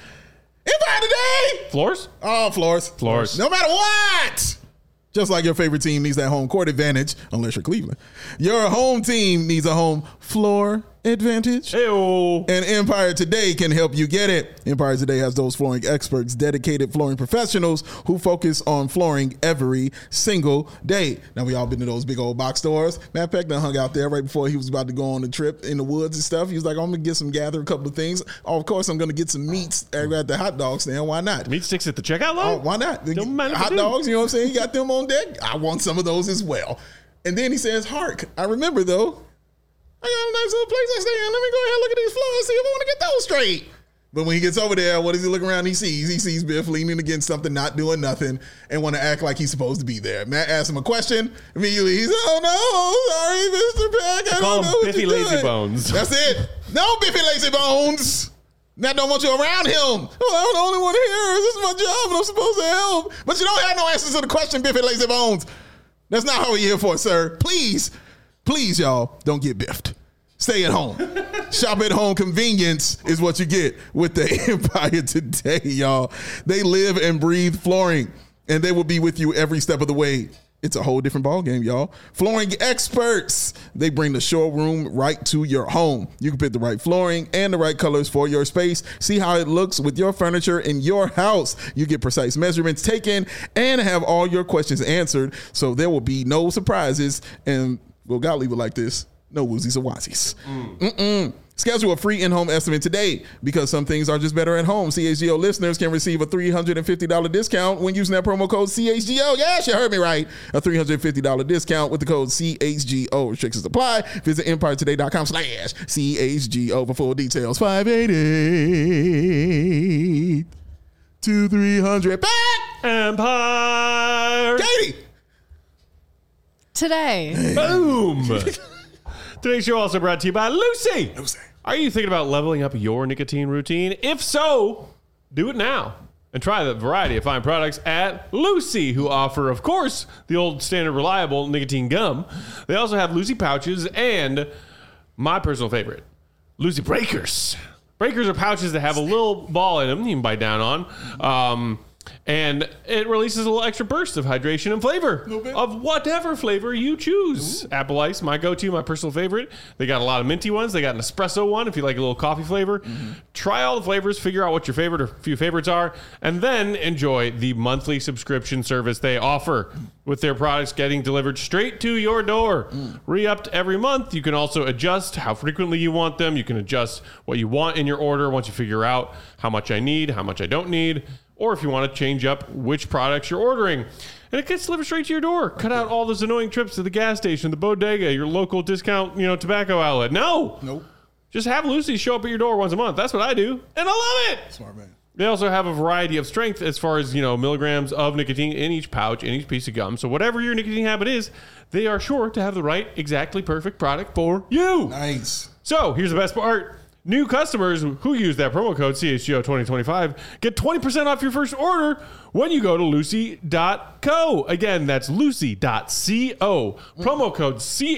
Empire today. Floors? Oh, floors. Floors. No matter what. Just like your favorite team needs that home court advantage, unless you're Cleveland, your home team needs a home floor advantage. Ew. And Empire Today can help you get it. Empire Today has those flooring experts, dedicated flooring professionals who focus on flooring every single day. Now, we all been to those big old box stores. Matt Peck done hung out there right before he was about to go on the trip in the woods and stuff. He was like, I'm going to gather a couple of things. Oh, of course, I'm going to get some meats at the hot dog stand. Why not? Meat sticks at the checkout line? Oh, why not? Don't mind if I Hot do. dogs, you know what I'm saying? He got them on deck. I want some of those as well. And then he says, hark, I remember, though, I got a nice little place I stay in. Let me go ahead and look at these floors, see if I want to get those straight. But when he gets over there, what does he look around? He sees Biff leaning against something, not doing nothing, and want to act like he's supposed to be there. Matt asks him a question. Immediately, he's, oh, no, sorry, Mr. Peck. I Call don't know him what Biffy you're Lazy doing." Bones. That's it. No, Biffy Lazy Bones. Matt don't want you around him. Oh, I'm the only one here. This is my job, and I'm supposed to help. But you don't have no answers to the question, Biffy Lazy Bones. That's not how we're here for, sir. Please, y'all, don't get biffed. Stay at home. Shop at home convenience is what you get with the Empire Today, y'all. They live and breathe flooring, and they will be with you every step of the way. It's a whole different ballgame, y'all. Flooring experts. They bring the showroom right to your home. You can pick the right flooring and the right colors for your space. See how it looks with your furniture in your house. You get precise measurements taken and have all your questions answered, so there will be no surprises. And, well, God leave it like this. No woozies or wazies. Schedule a free in-home estimate today, because some things are just better at home. CHGO listeners can receive a $350 discount when using that promo code CHGO. Yes, you heard me right. A $350 discount with the code CHGO. Restrictions apply. Visit EmpireToday.com/CHGO for full details. 588-2300. Back! Empire. Katie! Today. Boom. Today's show also brought to you by Lucy. Lucy. Are you thinking about leveling up your nicotine routine? If so, do it now and try the variety of fine products at Lucy, who offer, of course, the old standard reliable nicotine gum. They also have Lucy pouches and my personal favorite, Lucy Breakers. Breakers are pouches that have a little ball in them you can bite down on. And it releases a little extra burst of hydration and flavor of whatever flavor you choose. Ooh. Apple Ice, my go-to, my personal favorite. They got a lot of minty ones. They got an espresso one if you like a little coffee flavor. Mm-hmm. Try all the flavors, figure out what your favorite or few favorites are, and then enjoy the monthly subscription service they offer with their products getting delivered straight to your door. Re-upped every month. You can also adjust how frequently you want them. You can adjust what you want in your order once you figure out how much I need, how much I don't need, or if you want to change up which products you're ordering. And it gets delivered straight to your door. Cut out all those annoying trips to the gas station, the bodega, your local discount, tobacco outlet. Nope. Just have Lucy show up at your door once a month. That's what I do. And I love it. Smart man. They also have a variety of strength as far as, milligrams of nicotine in each pouch, in each piece of gum. So whatever your nicotine habit is, they are sure to have the right, exactly perfect product for you. Nice. So here's the best part. New customers who use that promo code CHGO2025 get 20% off your first order when you go to lucy.co. Again, that's lucy.co. Promo code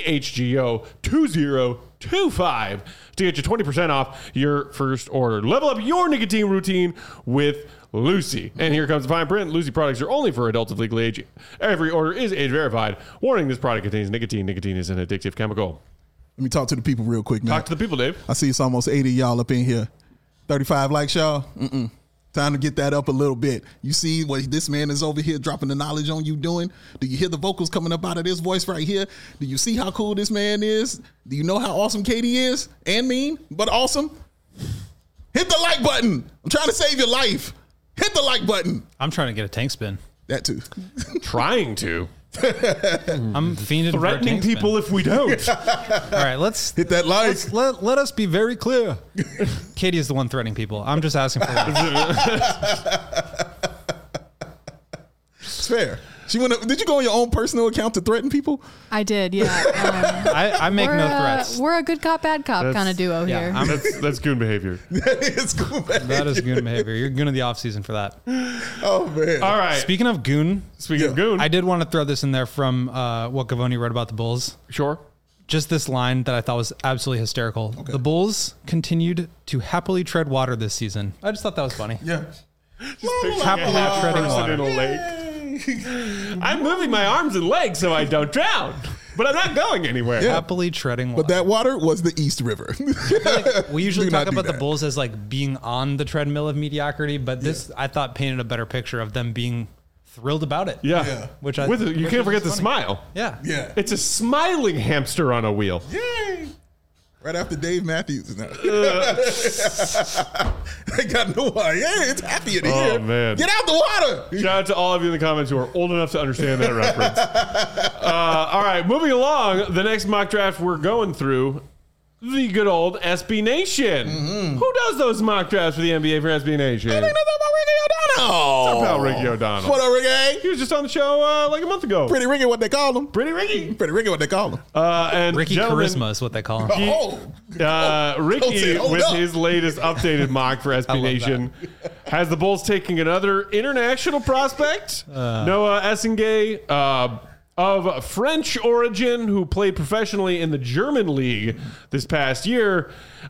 CHGO2025 to get you 20% off your first order. Level up your nicotine routine with Lucy. And here comes the fine print. Lucy products are only for adults of legal age. Every order is age verified. Warning, this product contains nicotine. Nicotine is an addictive chemical. Let me talk to the people real quick, man. Talk to the people, Dave. I see it's almost 80 of y'all up in here. 35 likes, y'all. Time to get that up a little bit. You see what this man is over here dropping the knowledge on you doing? Do you hear the vocals coming up out of this voice right here? Do you see how cool this man is? Do you know how awesome Katie is? And mean, but awesome? Hit the like button. I'm trying to save your life. Hit the like button. I'm trying to get a tank spin. That too. Trying to. I'm fiending for a Threatening tank spin. people if we don't. All right, let's Hit that like. let us be very clear. Katie is the one threatening people. I'm just asking for that. It's fair. Did you go on your own personal account to threaten people? I did, yeah. I make no threats. We're a good cop, bad cop kind of duo Yeah, here. That's goon behavior. It's cool, man. That is goon behavior. You're goon of the off season for that. Oh man. All right. Speaking of goon, Speaking of goon, I did want to throw this in there from what Gavoni wrote about the Bulls. sure. Just this line that I thought was absolutely hysterical. The Bulls continued to happily tread water this season. I just thought that was funny. Yeah. Happily treading water. In a lake. I'm moving my arms and legs so I don't drown, but I'm not going anywhere. Happily treading water. But that water was the East River. We usually Do talk not do about the that. Bulls as like being on the treadmill of mediocrity, but this I thought painted a better picture of them being thrilled about it. Yeah. Yeah. Which I With you which can't was forget the funny. smile. Yeah. Yeah. It's a smiling hamster on a wheel. Yay. Right after Dave Matthews. They got no water. Yeah, it's happy in Oh, here. man. Get out the water. Shout out to all of you in the comments who are old enough to understand that reference. All right, moving along. The next mock draft we're going through, the good old SB Nation. Who does those mock drafts for the NBA for SB Nation? I think that's about Ricky O'Donnell. About Ricky O'Donnell. What up, Ricky? He was just on the show like a month ago. Pretty Ricky, what they call him. Pretty Ricky. Pretty Ricky, what they call him. And Ricky gentlemen, Charisma is what they call him. Ricky, hold with up. his latest updated mock for SB love Nation, has the Bulls taking another international prospect, Noah Essengay, of French origin, who played professionally in the German league this past year.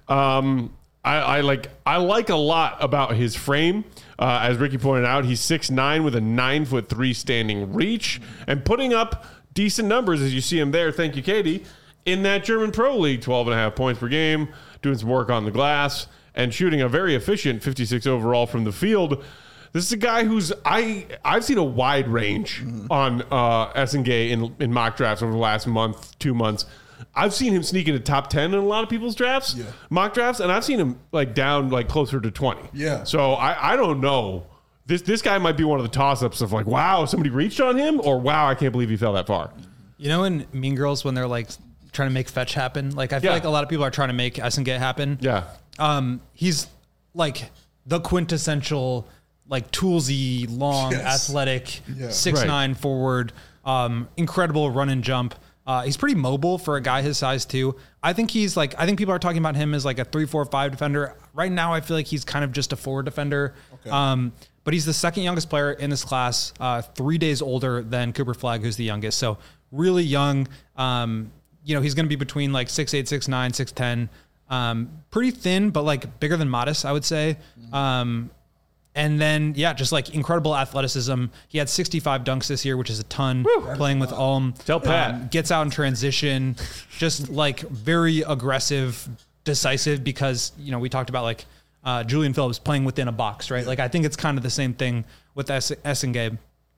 I like a lot about his frame. As Ricky pointed out, he's 6'9" with a 9'3" standing reach and putting up decent numbers as you see him there. Thank you, Katie. In that German Pro League, 12.5 points per game, doing some work on the glass and shooting a very efficient 56 overall from the field. This is a guy who's I've seen a wide range on Essengay in mock drafts over the last month, 2 months. I've seen him sneak into top 10 in a lot of people's drafts, mock drafts, and I've seen him like down like closer to 20. Yeah. So I don't know. This guy might be one of the toss-ups of like, wow, somebody reached on him, or wow, I can't believe he fell that far. You know in Mean Girls when they're like trying to make fetch happen? Like I feel like a lot of people are trying to make Essengay happen. Yeah. He's like the quintessential like toolsy, long, athletic, 6'9" forward, incredible run and jump. He's pretty mobile for a guy his size too. I think people are talking about him as like a 3-4-5 defender. Right now, I feel like he's kind of just a forward defender. Okay. But he's the second youngest player in this class, 3 days older than Cooper Flagg, who's the youngest. So really young. He's going to be between like 6'8", 6'9", 6'10". Pretty thin, but like bigger than Modest, I would say. And then, just like incredible athleticism. He had 65 dunks this year, which is a ton. Playing with Ulm. Tell Pat. Gets out in transition. Just like very aggressive, decisive because, we talked about like Julian Phillips playing within a box, right? Like I think it's kind of the same thing with Essengay.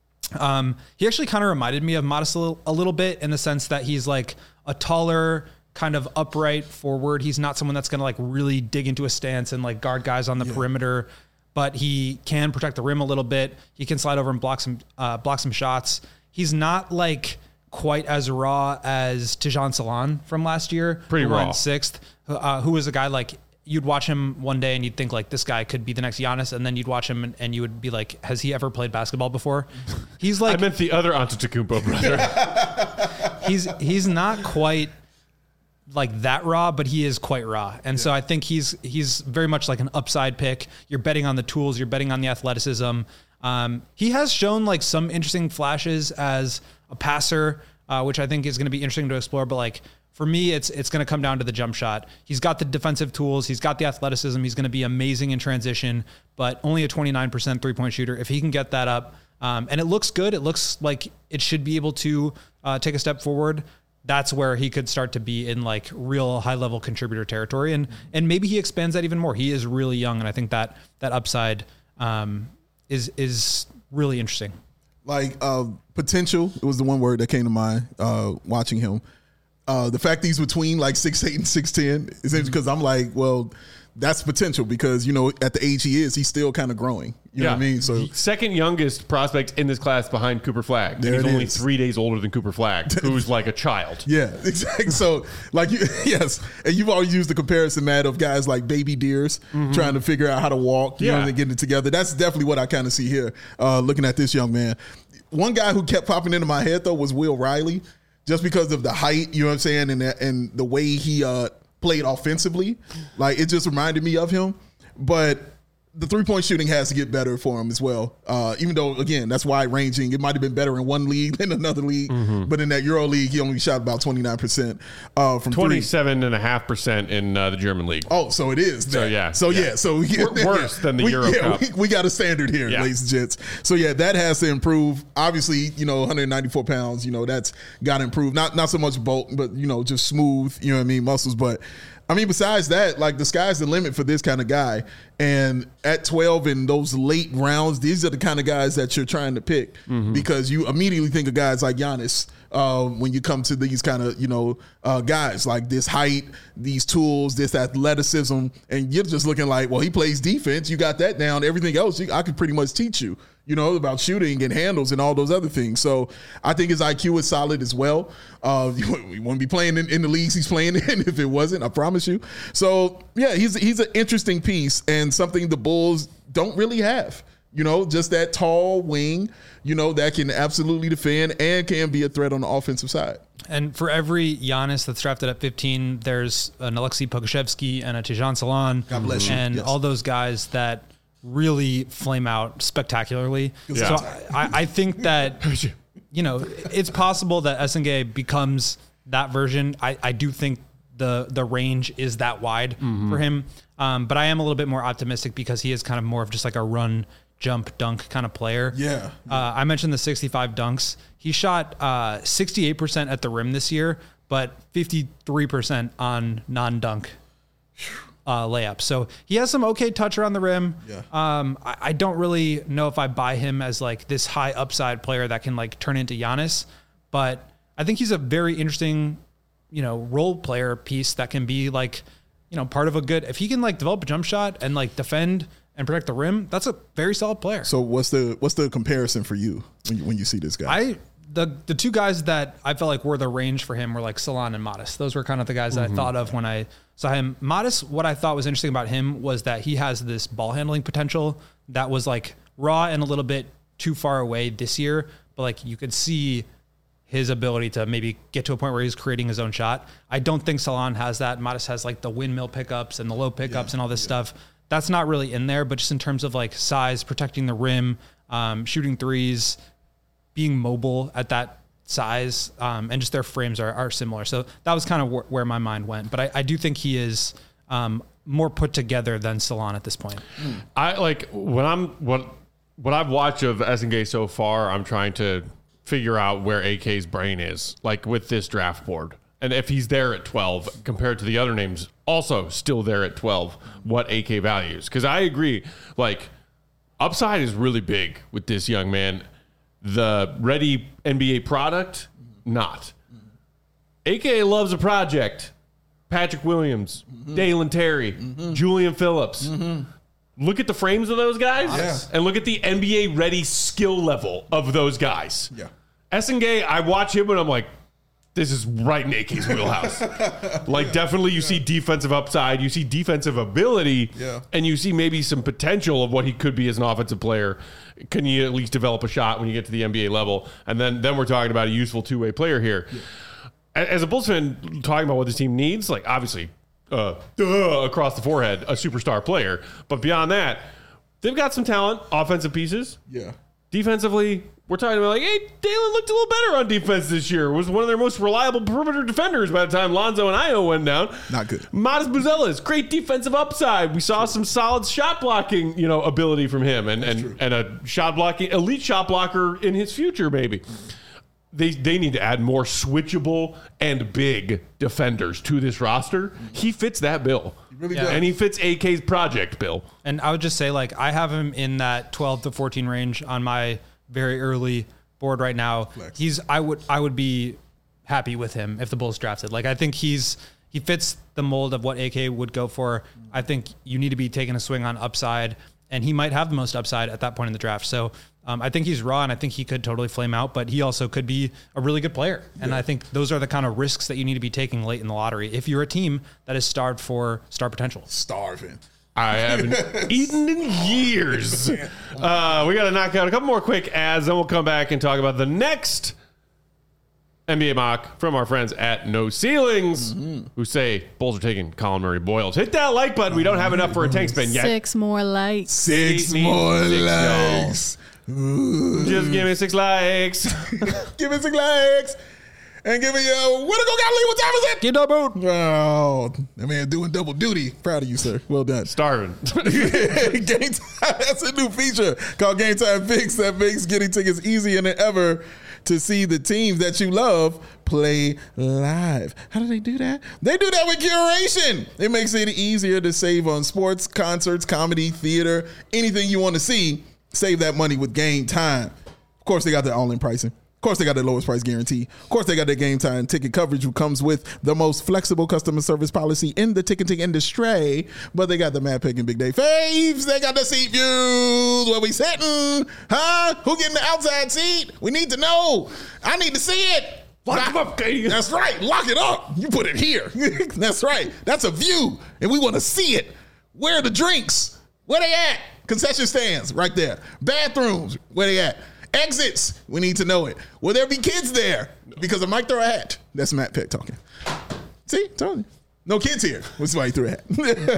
He actually kind of reminded me of Modest a little bit in the sense that he's like a taller, kind of upright forward. He's not someone that's going to like really dig into a stance and like guard guys on the perimeter. But he can protect the rim a little bit. He can slide over and block some shots. He's not like quite as raw as Tijan Salan from last year. Pretty who raw. went sixth, who was a guy like you'd watch him one day and you'd think like this guy could be the next Giannis, and then you'd watch him and you would be like, has he ever played basketball before? He's like I meant the other Antetokounmpo brother. he's not quite like that raw, but he is quite raw. And so I think he's very much like an upside pick. You're betting on the tools, you're betting on the athleticism. He has shown like some interesting flashes as a passer, which I think is going to be interesting to explore. But like for me, it's going to come down to the jump shot. He's got the defensive tools. He's got the athleticism. He's going to be amazing in transition, but only a 29% 3-point shooter. If he can get that up, and it looks good, it looks like it should be able to take a step forward. That's where he could start to be in like real high level contributor territory. And maybe he expands that even more. He is really young. And I think that upside is really interesting. Like potential, it was the one word that came to mind watching him. The fact that he's between like 6'8" and 6'10" is because I'm like, well, that's potential because, at the age he is, he's still kind of growing. You know what I mean? So second youngest prospect in this class behind Cooper Flagg. There He's it only is. 3 days older than Cooper Flagg, who's like a child. yeah, exactly. So like, yes. And you've always used the comparison, Matt, of guys like baby deers trying to figure out how to walk, and getting it together. That's definitely what I kind of see here, looking at this young man. One guy who kept popping into my head, though, was Will Riley, just because of the height, you know what I'm saying, and the way he played offensively. Like, it just reminded me of him. But the three-point shooting has to get better for him as well. Even though, again, that's wide-ranging. It might have been better in one league than another league. But in that Euro League, he only shot about 29% from 27.5% in the German league. Oh, so it is. So, yeah. So, yeah. So worse than the Euro Cup. We got a standard here, ladies and gents. So, yeah, that has to improve. Obviously, 194 pounds, that's got to improve. Not so much bulk, but, just smooth, muscles. But, besides that, like, the sky's the limit for this kind of guy. And at 12 in those late rounds, these are the kind of guys that you're trying to pick because you immediately think of guys like Giannis when you come to these kind of, guys like this height, these tools, this athleticism. And you're just looking like, well, he plays defense. You got that down. Everything else, I could pretty much teach you. About shooting and handles and all those other things. So I think his IQ is solid as well. You wouldn't be playing in the leagues he's playing in if it wasn't, I promise you. So, yeah, he's an interesting piece and something the Bulls don't really have. Just that tall wing, that can absolutely defend and can be a threat on the offensive side. And for every Giannis that's drafted at 15, there's an Alexei Pokusevski and a Tijan Salan. God bless you. And all those guys that really flame out spectacularly. Yeah. So I think that, it's possible that SNG becomes that version. I do think the range is that wide for him. But I am a little bit more optimistic because he is kind of more of just like a run, jump, dunk kind of player. Yeah. I mentioned the 65 dunks. He shot 68% at the rim this year, but 53% on non-dunk layup. So he has some okay touch around the rim. Yeah. I don't really know if I buy him as like this high upside player that can like turn into Giannis, but I think he's a very interesting, role player piece that can be like, part of a good, if he can like develop a jump shot and like defend and protect the rim, that's a very solid player. So what's the comparison for you when you see this guy? The two guys that I felt like were the range for him were like Salan and Modest. Those were kind of the guys that I thought of when I saw him. Modest, what I thought was interesting about him was that he has this ball handling potential that was like raw and a little bit too far away this year, but like you could see his ability to maybe get to a point where he's creating his own shot. I don't think Salan has that. Modest has like the windmill pickups and the low pickups and all this stuff. That's not really in there, but just in terms of like size, protecting the rim, shooting threes, being mobile at that size, and just their frames are similar. So that was kind of where my mind went. But I do think he is more put together than Salan at this point. I like what I've watched of SNG so far. I'm trying to figure out where AK's brain is, like with this draft board, and if he's there at 12 compared to the other names, also still there at 12. What AK values? Because I agree, like upside is really big with this young man. The ready NBA product, not. AK loves a project. Patrick Williams, Dalen Terry, Julian Phillips. Look at the frames of those guys and look at the NBA ready skill level of those guys. Yeah. SNG, I watch him and I'm like, this is right in AK's wheelhouse. Like, definitely you see defensive upside, you see defensive ability, and you see maybe some potential of what he could be as an offensive player. Can you at least develop a shot when you get to the NBA level? And then we're talking about a useful two-way player here. As a Bulls fan, talking about what this team needs, like, obviously, across the forehead, a superstar player. But beyond that, they've got some talent, offensive pieces. Yeah. Defensively, we're talking about like, hey, Dalen looked a little better on defense this year. Was one of their most reliable perimeter defenders by the time Lonzo and Io went down. Not good. Modest Buzelis, great defensive upside. We saw some solid shot blocking, ability from him, and a elite shot blocker in his future, maybe. They need to add more switchable and big defenders to this roster. He fits that bill. Really does. And he fits AK's project bill. And I would just say, like, I have him in that 12 to 14 range on my very early board right now. Flex. I would be happy with him if the Bulls drafted. Like, I think he fits the mold of what AK would go for. I think you need to be taking a swing on upside, and he might have the most upside at that point in the draft. So I think he's raw, and I think he could totally flame out, but he also could be a really good player. And I think those are the kind of risks that you need to be taking late in the lottery if you're a team that is starved for star potential. Starving. I haven't eaten in years. We got to knock out a couple more quick ads, then we'll come back and talk about the next NBA mock from our friends at No Ceilings, who say Bulls are taking Colin Murray Boyles. Hit that like button. We don't have enough for a tank spin yet. 6 more likes. Six more likes. Just give me 6 likes. Give me 6 likes. And give me a way to go, Galilee. What time is it? Get double. Oh, that man doing double duty. Proud of you, sir. Well done. Starving. Game Time. That's a new feature called Game Time Fix that makes getting tickets easier than ever to see the teams that you love play live. How do they do that? They do that with curation. It makes it easier to save on sports, concerts, comedy, theater, anything you want to see. Save that money with Game Time. Of course, they got their all-in pricing. Of course, they got the lowest price guarantee. Of course, they got their Game Time ticket coverage, which comes with the most flexible customer service policy in the ticketing industry. But they got the Mad Pick and Big Day faves. They got the seat views. Where we sitting? Huh? Who getting the outside seat? We need to know. I need to see it. Lock them up, Katie. That's right. Lock it up. You put it here. That's right. That's a view, and we want to see it. Where are the drinks? Where they at? Concession stands right there. Bathrooms. Where they at? Exits. We need to know it. Will there be kids there? Because I might throw a hat. That's Matt Peck talking. See? Told you. No kids here. That's why he threw a hat.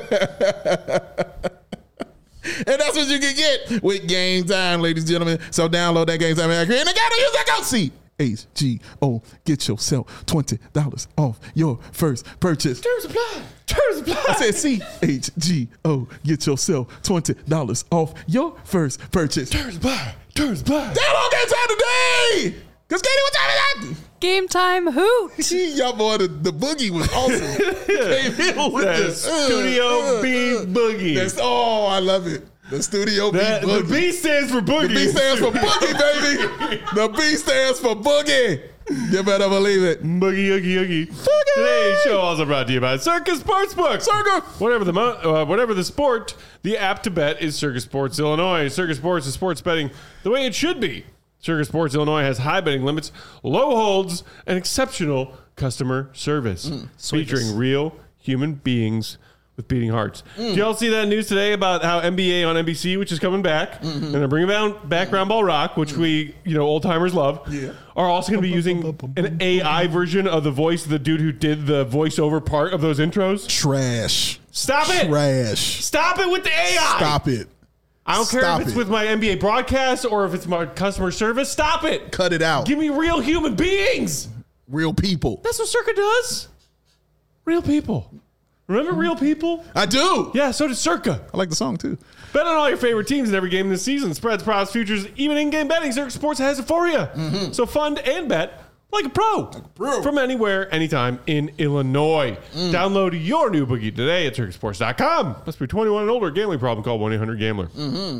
And that's what you can get with Game Time, ladies and gentlemen. So download that Game Time app, and they gotta use that code CHGO. Get yourself $20 off your first purchase. Terms apply. Terms apply. I said CHGO. Get yourself $20 off your first purchase. Terms apply. Terms apply. Download Game Time today. Cause Katie, what time is that? Game time hoot. Y'all boy, the boogie was awesome. Came in with That the Studio B Boogie. That's I love it. The Studio B The Boogie. B stands for Boogie. The B stands for Boogie, baby. The B stands for Boogie. You better believe it. Boogie, oogie, oogie. Today's show also brought to you by Circus Sportsbook. Circa. Whatever the sport, the app to bet is Circus Sports Illinois. Circus Sports is sports betting the way it should be. Circus Sports Illinois has high betting limits, low holds, and exceptional customer service, featuring real human beings with beating hearts. Did y'all see that news today about how NBA on NBC, which is coming back, and they're bringing back Round Ball Rock, which we, old timers love, are also going to be using an AI version of the voice of the dude who did the voiceover part of those intros? Trash. Stop it! Trash. Stop it with the AI! Stop it. I don't care Stop if it's it. with my NBA broadcast or if it's my customer service. Stop it! Cut it out. Give me real human beings! Real people. That's what Circa does. Real people. Remember Real People? I do. Yeah, so does Circa. I like the song too. Bet on all your favorite teams in every game this season. Spreads, props, futures, even in-game betting. Circa Sports has it for you. So fund and bet like a pro. From anywhere, anytime in Illinois. Download your new boogie today at circusports.com. Must be 21 and older. Gambling problem, call 1-800-GAMBLER.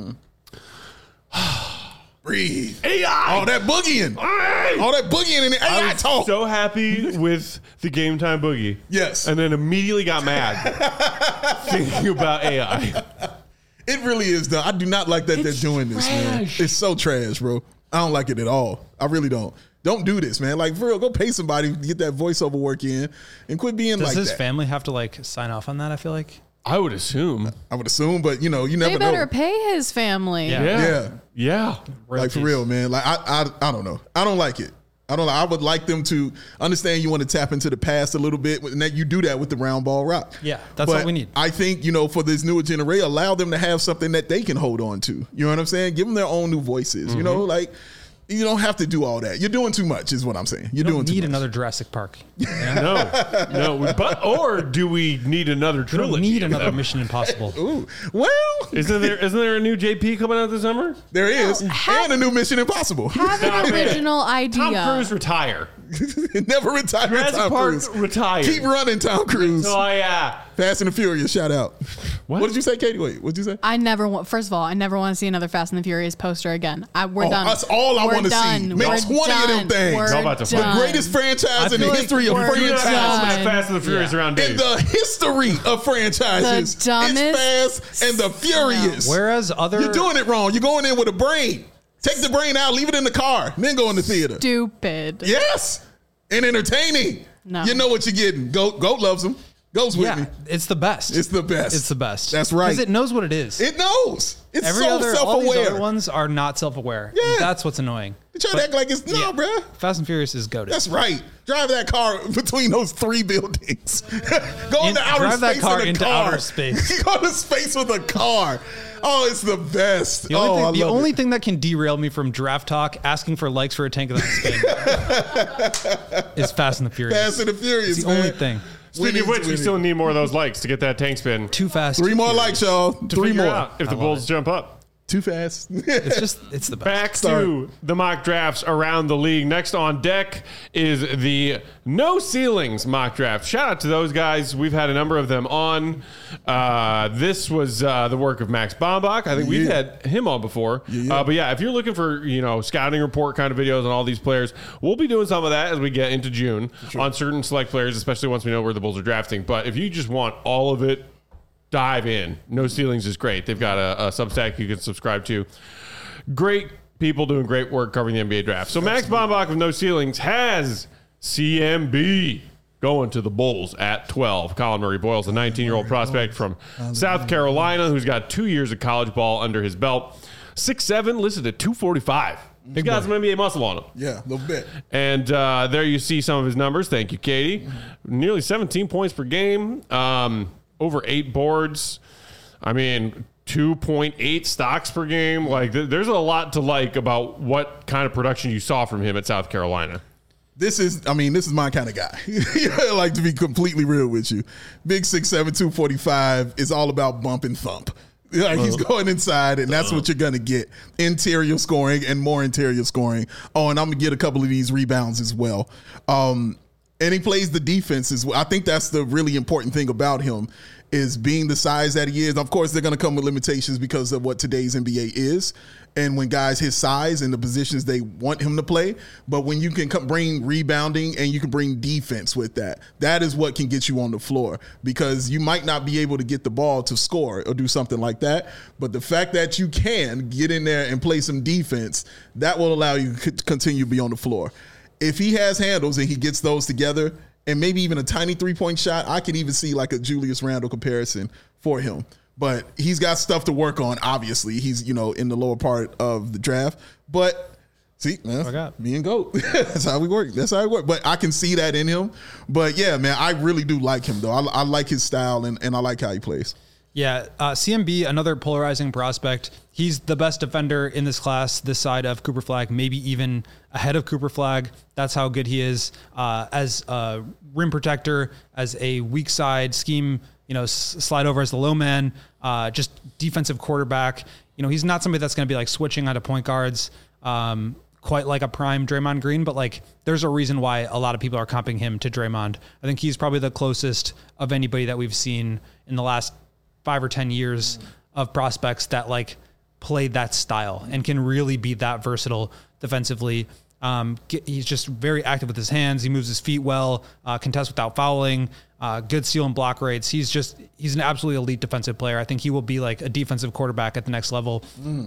Breathe. AI! All that boogieing. Hey! All that boogieing in the AI I was talk. so happy with the Game Time Boogie. Yes. And then immediately got mad thinking about AI. It really is, though. I do not like that they're doing this, man. trash. It's so trash, bro. I don't like it at all. I really don't. Don't do this, man. Like, for real, go pay somebody to get that voiceover work in and quit being Does like his that. family have to sign off on that? I feel like. I would assume. I would assume, but you never They better know. pay his family. Yeah. Yeah. Yeah. Like, Royalties. for real, man. Like, I don't know. I don't like it. I would like them to understand you want to tap into the past a little bit, and that you do that with the Round Ball Rock. Yeah, that's what we need. I think, for this newer generation, allow them to have something that they can hold on to. You know what I'm saying? Give them their own new voices. You don't have to do all that. You're doing too much, is what I'm saying. You're doing Don't too need much. another Jurassic Park. No. Or do we need another We trilogy? don't need another Mission Impossible. Ooh. Well, Isn't there a new JP coming out this summer? there is. And a new Mission Impossible. Have an original idea. Tom Cruise retire. Never retire. Jurassic Tom Park Cruise. retired. Keep running, Tom Cruise. Oh yeah. Fast and the Furious, shout out. What did you say, Katie? Wait, what did you say? I never want. First of all, I never want to see another Fast and the Furious poster again. We're done. That's all I We're want to see. done. Make We're 20 of them done. things. We're It's all about the fun. done. Greatest franchise in the feel like history of we're You're not franchises. that Fast and the Furious around In Dave. the history of franchises. The dumbest- It's Fast and the Furious. Whereas other You're doing it wrong. You're going in with a brain. Take the brain out, leave it in the car, then go in the theater. Stupid. Yes. And entertaining. No. You know what you're getting. Goat loves them. Goes with me. it's the best. It's the best. It's the best. That's right. Because it knows what it is. It knows. It's Every so other, all these self-aware. other ones are not self-aware. Yeah. That's what's annoying. You try to act like it's no, bruh. Fast and Furious is goated. That's right. Drive that car between those 3 buildings. Go into outer drive that space car in a into car. outer space. Go to space with a car. Oh, it's the best. The only, I love it. thing that can derail me from draft talk, asking for likes for a tank of that spin, is Fast and the Furious. Fast and the Furious, It's the man. only thing. Speaking of which, we still need more of those likes to get that tank spin. Too fast. 3 too more furious. likes, y'all. To 3 figure more. out if the love Bulls it. jump up. Too fast. It's the best. Back Sorry. to the mock drafts around the league. Next on deck is the No Ceilings mock draft. Shout out to those guys. We've had a number of them on. This was the work of Max Bombach. I think we've had him on before. But yeah, if you're looking for scouting report kind of videos on all these players, we'll be doing some of that as we get into June on certain select players, especially once we know where the Bulls are drafting. But if you just want all of it, dive in. No Ceilings is great. They've got a Substack you can subscribe to. Great people doing great work covering the NBA draft. So Max Bombach of No Ceilings has CMB going to the Bulls at 12. Colin Murray Boyles, a 19-year-old prospect from South Carolina who's got 2 years of college ball under his belt. 6'7", listed at 245. He's got some NBA muscle on him. Yeah, a little bit. And there you see some of his numbers. Thank you, Katie. Nearly 17 points per game. Over 8 boards. I mean, 2.8 stocks per game. Like, there's a lot to like about what kind of production you saw from him at South Carolina. This is my kind of guy. Like, to be completely real with you. Big 6'7", 245 is all about bump and thump. Like, he's going inside, and that's what you're going to get. Interior scoring and more interior scoring. Oh, and I'm going to get a couple of these rebounds as well. And he plays the defense as well. I think that's the really important thing about him, is being the size that he is. Of course, they're going to come with limitations because of what today's NBA is. And when guys his size and the positions they want him to play, but when you can bring rebounding and you can bring defense with that, that is what can get you on the floor, because you might not be able to get the ball to score or do something like that. But the fact that you can get in there and play some defense, that will allow you to continue to be on the floor. If he has handles and he gets those together and maybe even a tiny 3-point shot, I can even see like a Julius Randle comparison for him. But he's got stuff to work on, obviously. He's, in the lower part of the draft. But, see, man, me and GOAT. That's how we work. That's how it works. But I can see that in him. But, yeah, man, I really do like him, though. I like his style, and I like how he plays. Yeah, CMB, another polarizing prospect. He's the best defender in this class, this side of Cooper Flagg, maybe even ahead of Cooper Flagg. That's how good he is as a rim protector, as a weak side scheme, slide over as the low man, just defensive quarterback. He's not somebody that's going to be like switching out of point guards quite like a prime Draymond Green, but like there's a reason why a lot of people are comping him to Draymond. I think he's probably the closest of anybody that we've seen in the last 5 or 10 years of prospects that like play that style and can really be that versatile defensively. He's just very active with his hands. He moves his feet well, contests without fouling, good steal and block rates. He's an absolutely elite defensive player. I think he will be like a defensive quarterback at the next level.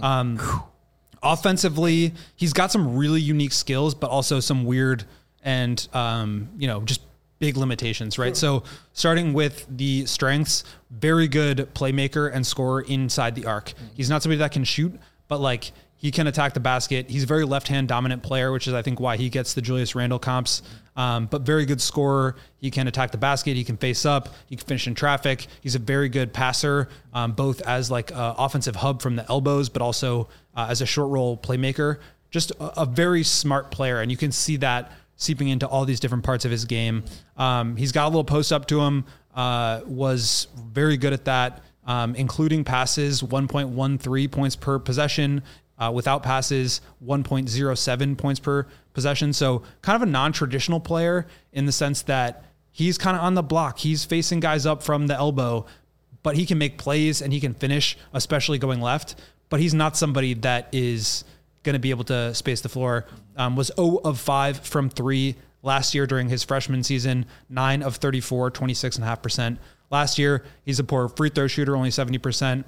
Offensively, he's got some really unique skills, but also some weird and, just big limitations, right? So starting with the strengths, very good playmaker and scorer inside the arc. He's not somebody that can shoot, but like he can attack the basket. He's a very left-hand dominant player, which is I think why he gets the Julius Randle comps, but very good scorer. He can attack the basket. He can face up. He can finish in traffic. He's a very good passer, both as like an offensive hub from the elbows, but also as a short roll playmaker. Just a very smart player. And you can see that seeping into all these different parts of his game. He's got a little post up to him, was very good at that, including passes, 1.13 points per possession, without passes, 1.07 points per possessions. So kind of a non-traditional player in the sense that he's kind of on the block. He's facing guys up from the elbow, but he can make plays and he can finish, especially going left. But he's not somebody that is going to be able to space the floor. Was 0 of 5 from 3 last year during his freshman season, 9 of 34, 26.5%. Last year, he's a poor free throw shooter, only 70%.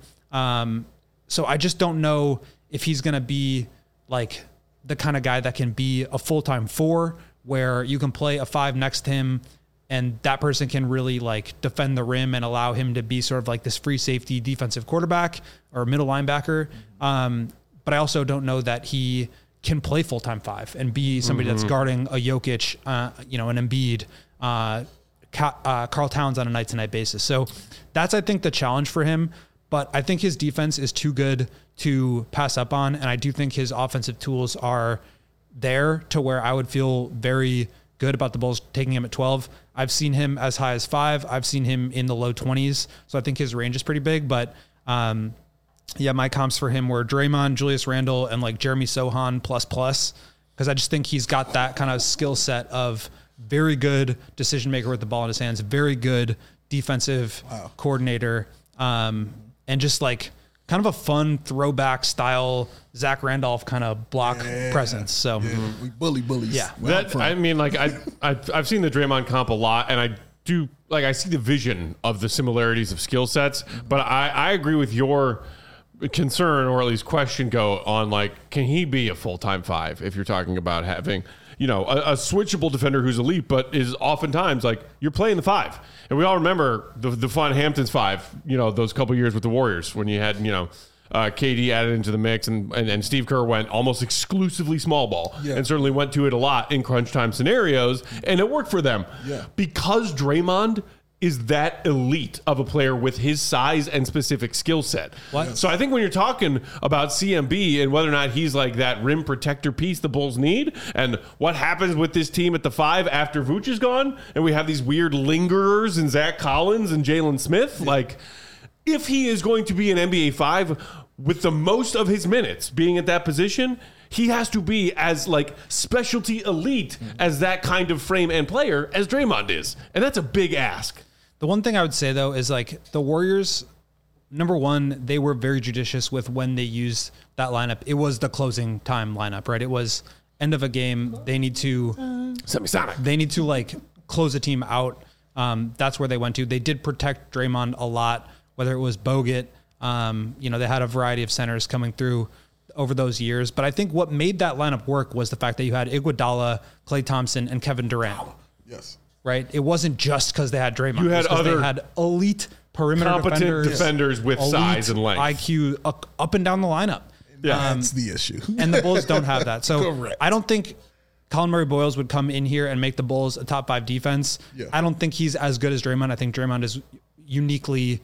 So I just don't know if he's going to be like the kind of guy that can be a full-time 4 where you can play a 5 next to him and that person can really like defend the rim and allow him to be sort of like this free safety defensive quarterback or middle linebacker. But I also don't know that he can play full-time 5 and be somebody that's guarding a Jokic, an Embiid, Karl Towns on a night-to-night basis. So that's, I think, the challenge for him. But I think his defense is too good to pass up on. And I do think his offensive tools are there to where I would feel very good about the Bulls taking him at 12. I've seen him as high as 5. I've seen him in the low 20s. So I think his range is pretty big. But my comps for him were Draymond, Julius Randle, and like Jeremy Sohan plus. Because I just think he's got that kind of skill set of very good decision maker with the ball in his hands, very good defensive coordinator, and just like kind of a fun throwback style Zach Randolph kind of block presence. So we bullies. Yeah, I mean, like I've seen the Draymond comp a lot, and I do like I see the vision of the similarities of skill sets. But I agree with your concern, or at least question, go on like, can he be a full-time 5 if you're talking about having a switchable defender who's elite, but is oftentimes like you're playing the 5. And we all remember the fun Hamptons 5, those couple years with the Warriors when you had, KD added into the mix and Steve Kerr went almost exclusively small ball and certainly went to it a lot in crunch time scenarios. And it worked for them because Draymond is that elite of a player with his size and specific skill set. So I think when you're talking about CMB and whether or not he's like that rim protector piece the Bulls need, and what happens with this team at the 5 after Vooch is gone, and we have these weird lingerers in Zach Collins and Jalen Smith, like if he is going to be an NBA 5 with the most of his minutes being at that position, he has to be as like specialty elite as that kind of frame and player as Draymond is. And that's a big ask. The one thing I would say, though, is like the Warriors, number one, they were very judicious with when they used that lineup. It was the closing time lineup, right? It was end of a game. They need to like close a team out. That's where they went to. They did protect Draymond a lot, whether it was Bogut. They had a variety of centers coming through over those years. But I think what made that lineup work was the fact that you had Iguodala, Klay Thompson, and Kevin Durant. Wow. Yes. Right? It wasn't just because they had Draymond. You had they had elite perimeter competent defenders with size and length. IQ up and down the lineup. Yeah, that's the issue. And the Bulls don't have that. So Correct. I don't think Colin Murray-Boyles would come in here and make the Bulls a top 5 defense. Yeah. I don't think he's as good as Draymond. I think Draymond is uniquely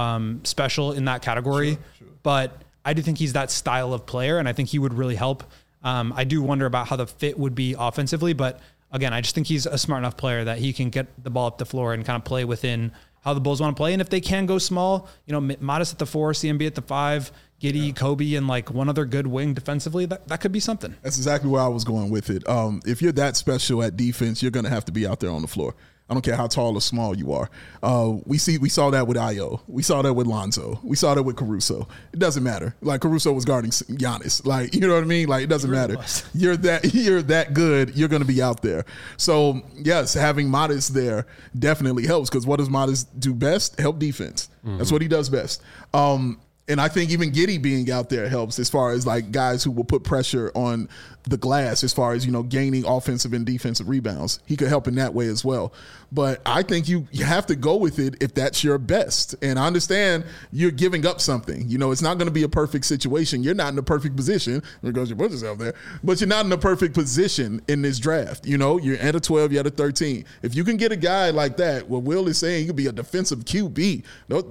special in that category. Sure. But I do think he's that style of player, and I think he would really help. I do wonder about how the fit would be offensively, but again, I just think he's a smart enough player that he can get the ball up the floor and kind of play within how the Bulls want to play. And if they can go small, Modest at the 4, CMB at the 5, Giddey, Kobe, and like one other good wing defensively, that could be something. That's exactly where I was going with it. If you're that special at defense, you're going to have to be out there on the floor. I don't care how tall or small you are. We saw that with Ayo. We saw that with Lonzo. We saw that with Caruso. It doesn't matter. Like Caruso was guarding Giannis. Like, you know what I mean? Like, it doesn't matter. You're that good. You're going to be out there. So yes, having Modest there definitely helps, because what does Modest do best? Help defense. That's what he does best. And I think even Giddey being out there helps, as far as like guys who will put pressure on the glass, as far as, gaining offensive and defensive rebounds. He could help in that way as well. But I think you have to go with it if that's your best. And I understand you're giving up something. It's not going to be a perfect situation. You're not in a perfect position because you put yourself there, but you're not in a perfect position in this draft. You're at a 12, you're at a 13. If you can get a guy like that, what Will is saying, he could be a defensive QB.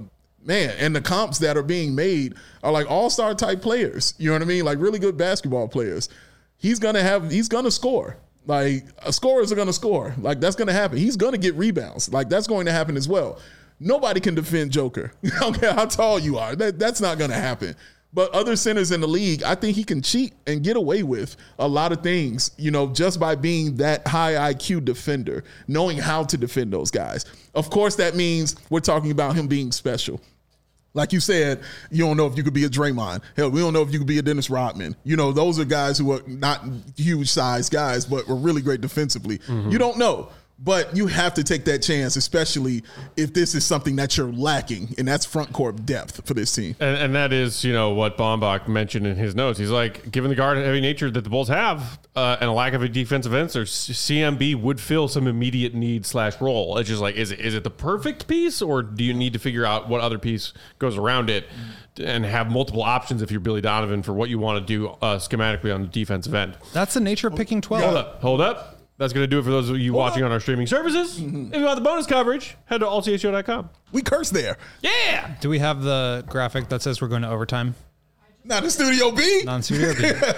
Man, and the comps that are being made are like all-star type players. You know what I mean? Like really good basketball players. He's going to score. Like, scorers are going to score. Like, that's going to happen. He's going to get rebounds. Like, that's going to happen as well. Nobody can defend Joker. I don't care how tall you are. That's not going to happen. But other centers in the league, I think he can cheat and get away with a lot of things, just by being that high IQ defender, knowing how to defend those guys. Of course, that means we're talking about him being special. Like you said, you don't know if you could be a Draymond. Hell, we don't know if you could be a Dennis Rodman. Those are guys who are not huge size guys, but were really great defensively. Mm-hmm. You don't know. But you have to take that chance, especially if this is something that you're lacking, and that's front court depth for this team. And that is, what Baumbach mentioned in his notes. He's like, given the guard-heavy nature that the Bulls have and a lack of a defensive answer, CMB would fill some immediate need/role. It's just like, is it the perfect piece, or do you need to figure out what other piece goes around it and have multiple options if you're Billy Donovan for what you want to do schematically on the defensive end? That's the nature of picking 12. Hold up. That's going to do it for those of you watching on our streaming services. Mm-hmm. If you want the bonus coverage, head to allchgo.com. We curse there. Yeah. Do we have the graphic that says we're going to overtime? Not in Studio B. Not in Studio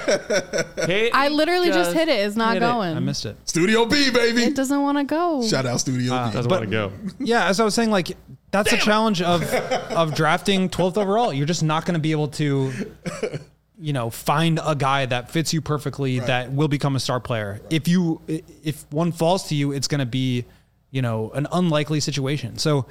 B. I literally just hit it. It's not going. I missed it. Studio B, baby. It doesn't want to go. Shout out Studio B. Doesn't want to go. Yeah, as I was saying, that's the challenge of drafting 12th overall. You're just not going to be able to find a guy that fits you perfectly, right, that will become a star player. Right. If one falls to you, it's going to be, an unlikely situation. So,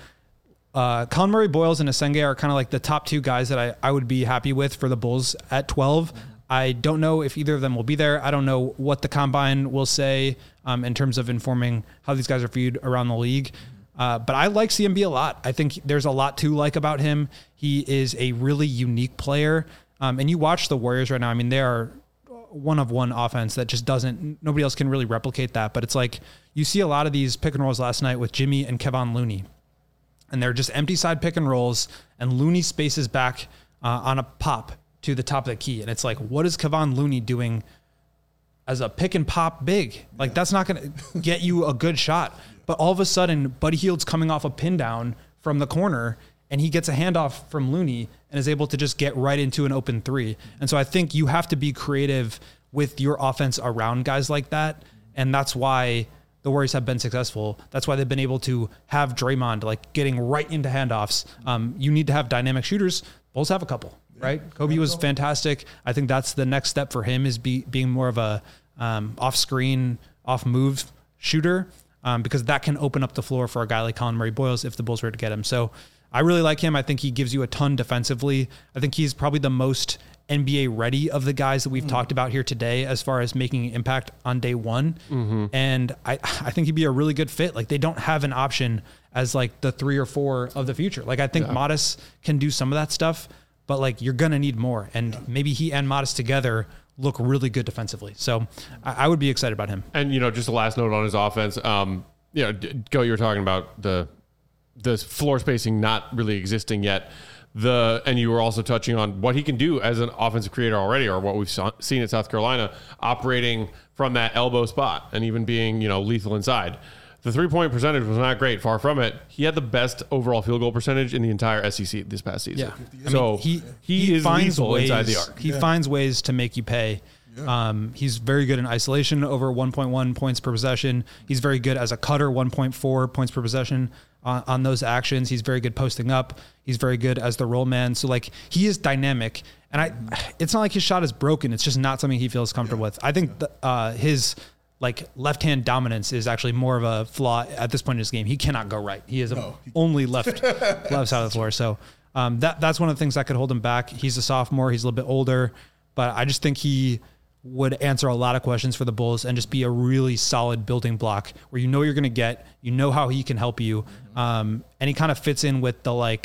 Colin Murray-Boyles and Asenge are kind of like the top two guys that I would be happy with for the Bulls at 12. I don't know if either of them will be there. I don't know what the combine will say in terms of informing how these guys are viewed around the league. But I like CMB a lot. I think there's a lot to like about him. He is a really unique player. And you watch the Warriors right now. I mean, they are one-of-one offense that just nobody else can really replicate that. But it's like you see a lot of these pick and rolls last night with Jimmy and Kevon Looney. And they're just empty side pick and rolls, and Looney spaces back on a pop to the top of the key. And it's like, what is Kevon Looney doing as a pick and pop big? Like, that's not going to get you a good shot. But all of a sudden, Buddy Hield's coming off a pin down from the corner, and he gets a handoff from Looney and is able to just get right into an open three. And so I think you have to be creative with your offense around guys like that. And that's why the Warriors have been successful. That's why they've been able to have Draymond getting right into handoffs. You need to have dynamic shooters. Bulls have a couple, right? Kobe was fantastic. I think that's the next step for him is being more of a off-screen, off-move shooter because that can open up the floor for a guy like Colin Murray-Boyles if the Bulls were to get him. So I really like him. I think he gives you a ton defensively. I think he's probably the most NBA ready of the guys that we've talked about here today as far as making an impact on day one. Mm-hmm. And I think he'd be a really good fit. They don't have an option as the 3 or 4 of the future. I think Modest can do some of that stuff, but you're going to need more. And maybe he and Modest together look really good defensively. So I would be excited about him. And, just the last note on his offense, Go, you were talking about the floor spacing not really existing yet. And you were also touching on what he can do as an offensive creator already, or what we've seen at South Carolina, operating from that elbow spot and even being, lethal inside. The 3-point percentage was not great, far from it. He had the best overall field goal percentage in the entire SEC this past season. Yeah. So he is lethal inside the arc. He finds ways to make you pay. Yeah. He's very good in isolation, over 1.1 points per possession. He's very good as a cutter, 1.4 points per possession on those actions. He's very good posting up. He's very good as the roll man. So he is dynamic, and it's not like his shot is broken. It's just not something he feels comfortable with. I think his left hand dominance is actually more of a flaw at this point in his game. He cannot go right. He is only left side of the floor. So that's one of the things that could hold him back. He's a sophomore. He's a little bit older, but I just think he would answer a lot of questions for the Bulls and just be a really solid building block where you're going to get, how he can help you. And he kind of fits in with the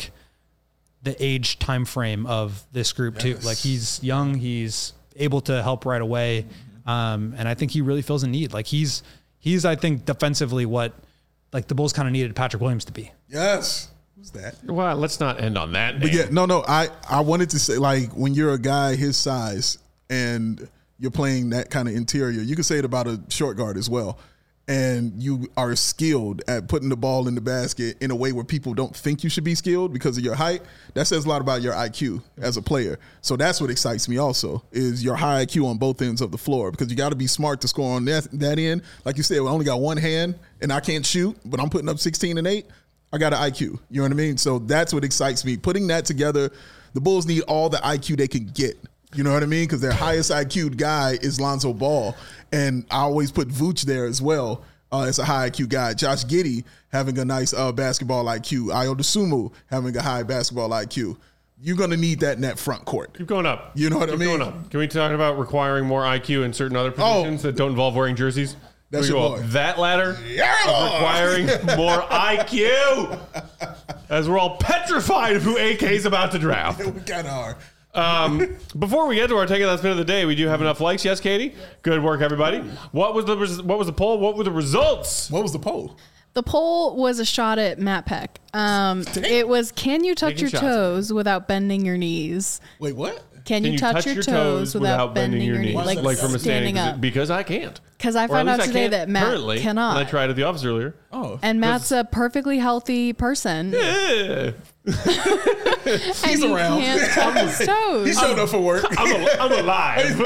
age time frame of this group too. He's young, he's able to help right away. And I think he really fills a need. He's I think defensively what the Bulls kind of needed Patrick Williams to be. Yes. Who's that? Well, let's not end on that. But I wanted to say when you're a guy his size and you're playing that kind of interior, you could say it about a short guard as well. And you are skilled at putting the ball in the basket in a way where people don't think you should be skilled because of your height. That says a lot about your IQ as a player. So that's what excites me also, is your high IQ on both ends of the floor, because you got to be smart to score on that end. Like you said, we only got one hand and I can't shoot, but I'm putting up 16 and 8. I got an IQ. You know what I mean? So that's what excites me. Putting that together, The Bulls need all the IQ they can get. You know what I mean? Because their highest IQ guy is Lonzo Ball. And I always put Vooch there as well as a high IQ guy. Josh Giddey having a nice basketball IQ. Ayo Dosunmu having a high basketball IQ. You're going to need that in that front court. Keep going up. You know what I mean? Going up. Can we talk about requiring more IQ in certain other positions that don't involve wearing jerseys? That's Can we your go boy. up that ladder of requiring more IQ, as we're all petrified of who AK's about to draft. We kind of are. Before we get to our take it last minute of the day, we do have enough likes. Yes, Katie. Good work, everybody. What was the poll? What were the results? What was the poll? The poll was a shot at Matt Peck. It was, can you touch Taking your shots. toes without bending your knees? Wait, what? Can you touch your toes without bending your knees? Like from a standing up. Because I can't. Because I Or found at out least I today can't that Matt currently, cannot. And I tried at the office earlier. Oh. And Matt's a perfectly healthy person. Yeah. He's and around. He can't touch his He toes. showed up for work. I'm alive.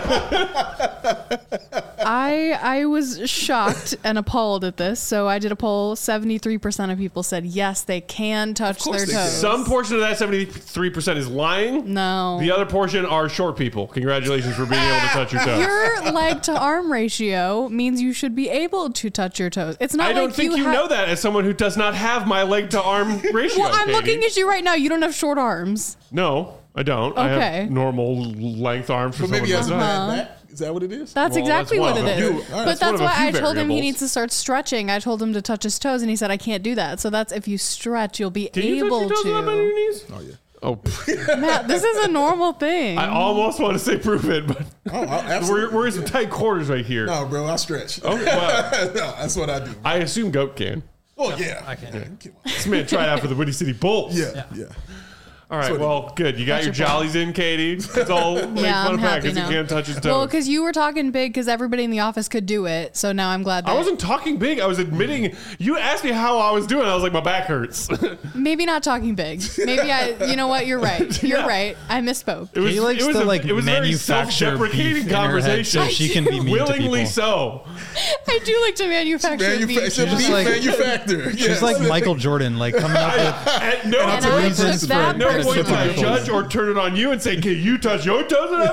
I was shocked and appalled at this. So I did a poll. 73% of people said yes, they can touch course their they can. toes. Some portion of that 73% is lying. No. The other portion are short people. Congratulations for being able to touch your toes. Your leg to arm ratio means you should be able to touch your toes. It's not I don't like think you know that as someone who does not have my leg to arm ratio. Well, I'm Katie. looking at you right now. You don't have short arms. No, I don't. I Okay. have normal length arms for But maybe he has a someone who bad does. back. Is that what it is? That's Well, exactly that's what one it of a is. few- All right, But that's one that's of a why few I told him he variables. needs to start stretching. I told him to touch his toes, and he said, I can't do that. So that's if you stretch, you'll be Can you touch able your toes without bending your to. knees? Oh, yeah. Oh, Matt, this is a normal thing. I almost want to say prove it, but Oh, absolutely. we're in some tight quarters right here. No, bro, I stretch. Oh, well, No, that's what I do. I assume Goat can. Oh, yeah. I can't. Come on. This man tried out for the Windy City Bulls. Yeah. All right, what it well, good. You got your jollies in, Katie. It's all make Yeah, fun I'm of Pat happy because he now. can't touch his toes. Well, because you were talking big because everybody in the office could do it. So now I'm glad that I wasn't talking big. I was admitting. You asked me how I was doing. I was like, my back hurts. maybe not talking big. Maybe you know what? You're right. You're right. I misspoke. It was, He likes it was to, a, like, it was a very manufacture self-deprecating beef in her head conversation. so she can be mean to Willingly people. so. I do like to manufacture beef. It's a She's beef like- manufacturer. She's like Michael Jordan, like coming up with At no And I point, took that no point did I personally. judge or turn it on you and say, "Can you touch your toes?" No,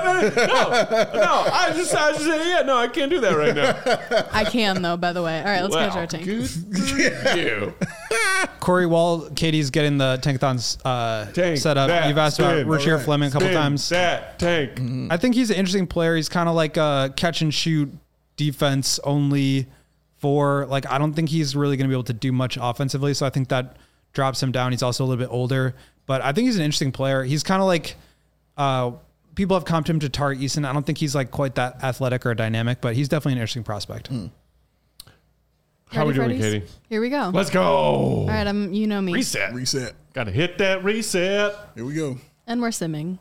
I just say, "Yeah, no, I can't do that right now." I can though. By the way. All right, let's get to our tank. You. Corey, while Katie's getting the tankathons Tank set up, that, you've asked about spin, Rasheer alright, Fleming a couple Spin times. that tank. I think he's an interesting player. He's kind of like a catch and shoot defense only for like, I don't think he's really going to be able to do much offensively. So I think that drops him down. He's also a little bit older, but I think he's an interesting player. He's kind of like, people have comped him to Tari Eason. I don't think he's like quite that athletic or dynamic, but he's definitely an interesting prospect. How we Ready, doing, Freddies? Katie? Here we go. Let's go. All right, you know me. Reset. Got to hit that reset. Here we go. And we're simming.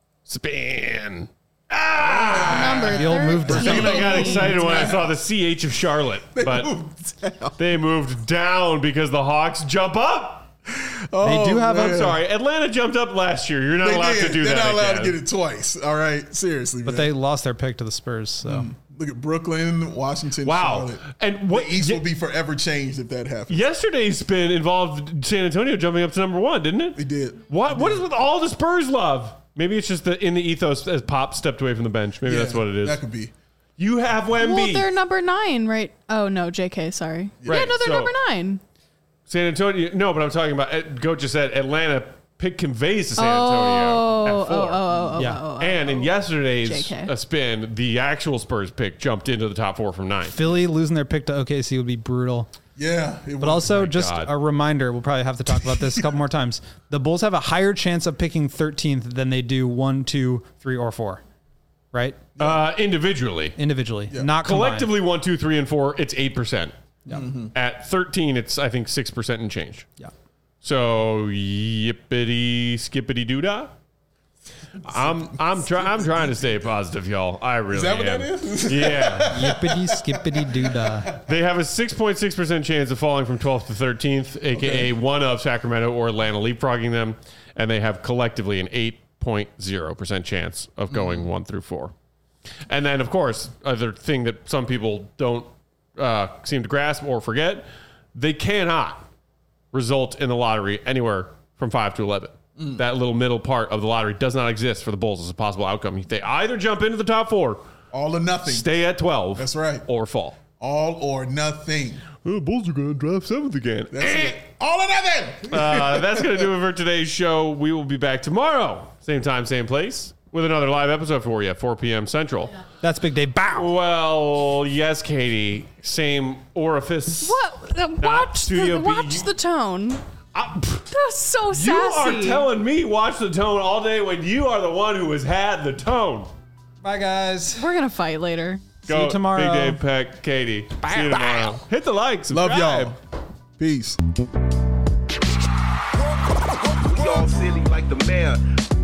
Spin. Number The old move down. 13. I got excited when I saw the CH of Charlotte, but they moved down because the Hawks jump up. They do have I'm a, sorry, Atlanta jumped up last year. You're not They allowed did. to do They're that. not allowed again. to get it twice. All right. Seriously. but man. they lost their pick to the Spurs. So Look at Brooklyn, Washington, Wow. Charlotte. And what The East will be forever changed if that happens. yesterday's spin involved San Antonio jumping up to number one, didn't it? They did. What is with all the Spurs love? Maybe it's just in the ethos as Pop stepped away from the bench. Maybe that's what it is. That could be. You have Wemby. Well, they're number 9, right? Oh no, JK. Sorry. Right, Yeah, no, they're so- number 9. San Antonio. No, but I'm talking about. Goat just said Atlanta pick conveys to San Antonio at 4. yeah. And in yesterday's JK. Spin, the actual Spurs pick jumped into the top 4 from 9. Philly losing their pick to OKC would be brutal. Yeah. But also, just God. a reminder, we'll probably have to talk about this a couple more times. The Bulls have a higher chance of picking 13th than they do 1, 2, 3, or 4, right? Individually. Individually, not combined. Collectively, 1, 2, 3, and 4, it's 8%. At 13, it's, I think, 6% and change. Yeah. So, yippity skippity doodah. I'm trying to stay positive, y'all. I really Is that what am. that is? Yeah. Yippity skippity doodah. They have a 6.6% chance of falling from 12th to 13th, aka one of Sacramento or Atlanta leapfrogging them, and they have collectively an 8.0% chance of going 1 through 4. And then, of course, other thing that some people don't seem to grasp or forget, they cannot result in the lottery anywhere from 5 to 11. That little middle part of the lottery does not exist for the Bulls as a possible outcome. They either jump into the top 4, all or nothing. stay at 12. That's right. Or fall. All or nothing. The Bulls are going to draft 7th again. That's it. All or nothing. That's going to do it for today's show. We will be back tomorrow. Same time, same place. With another live episode for you at 4 p.m. Central. That's Big Day. Bow. Well, yes, Katie. Same orifice. What? Watch the tone. That's so sassy. You are telling me watch the tone all day when you are the one who has had the tone. Bye, guys. We're going to fight later. Go, See you tomorrow. Big Dave, Peck, Katie. See you tomorrow. Hit the like, subscribe. Love y'all. Peace. Y'all silly like the mayor.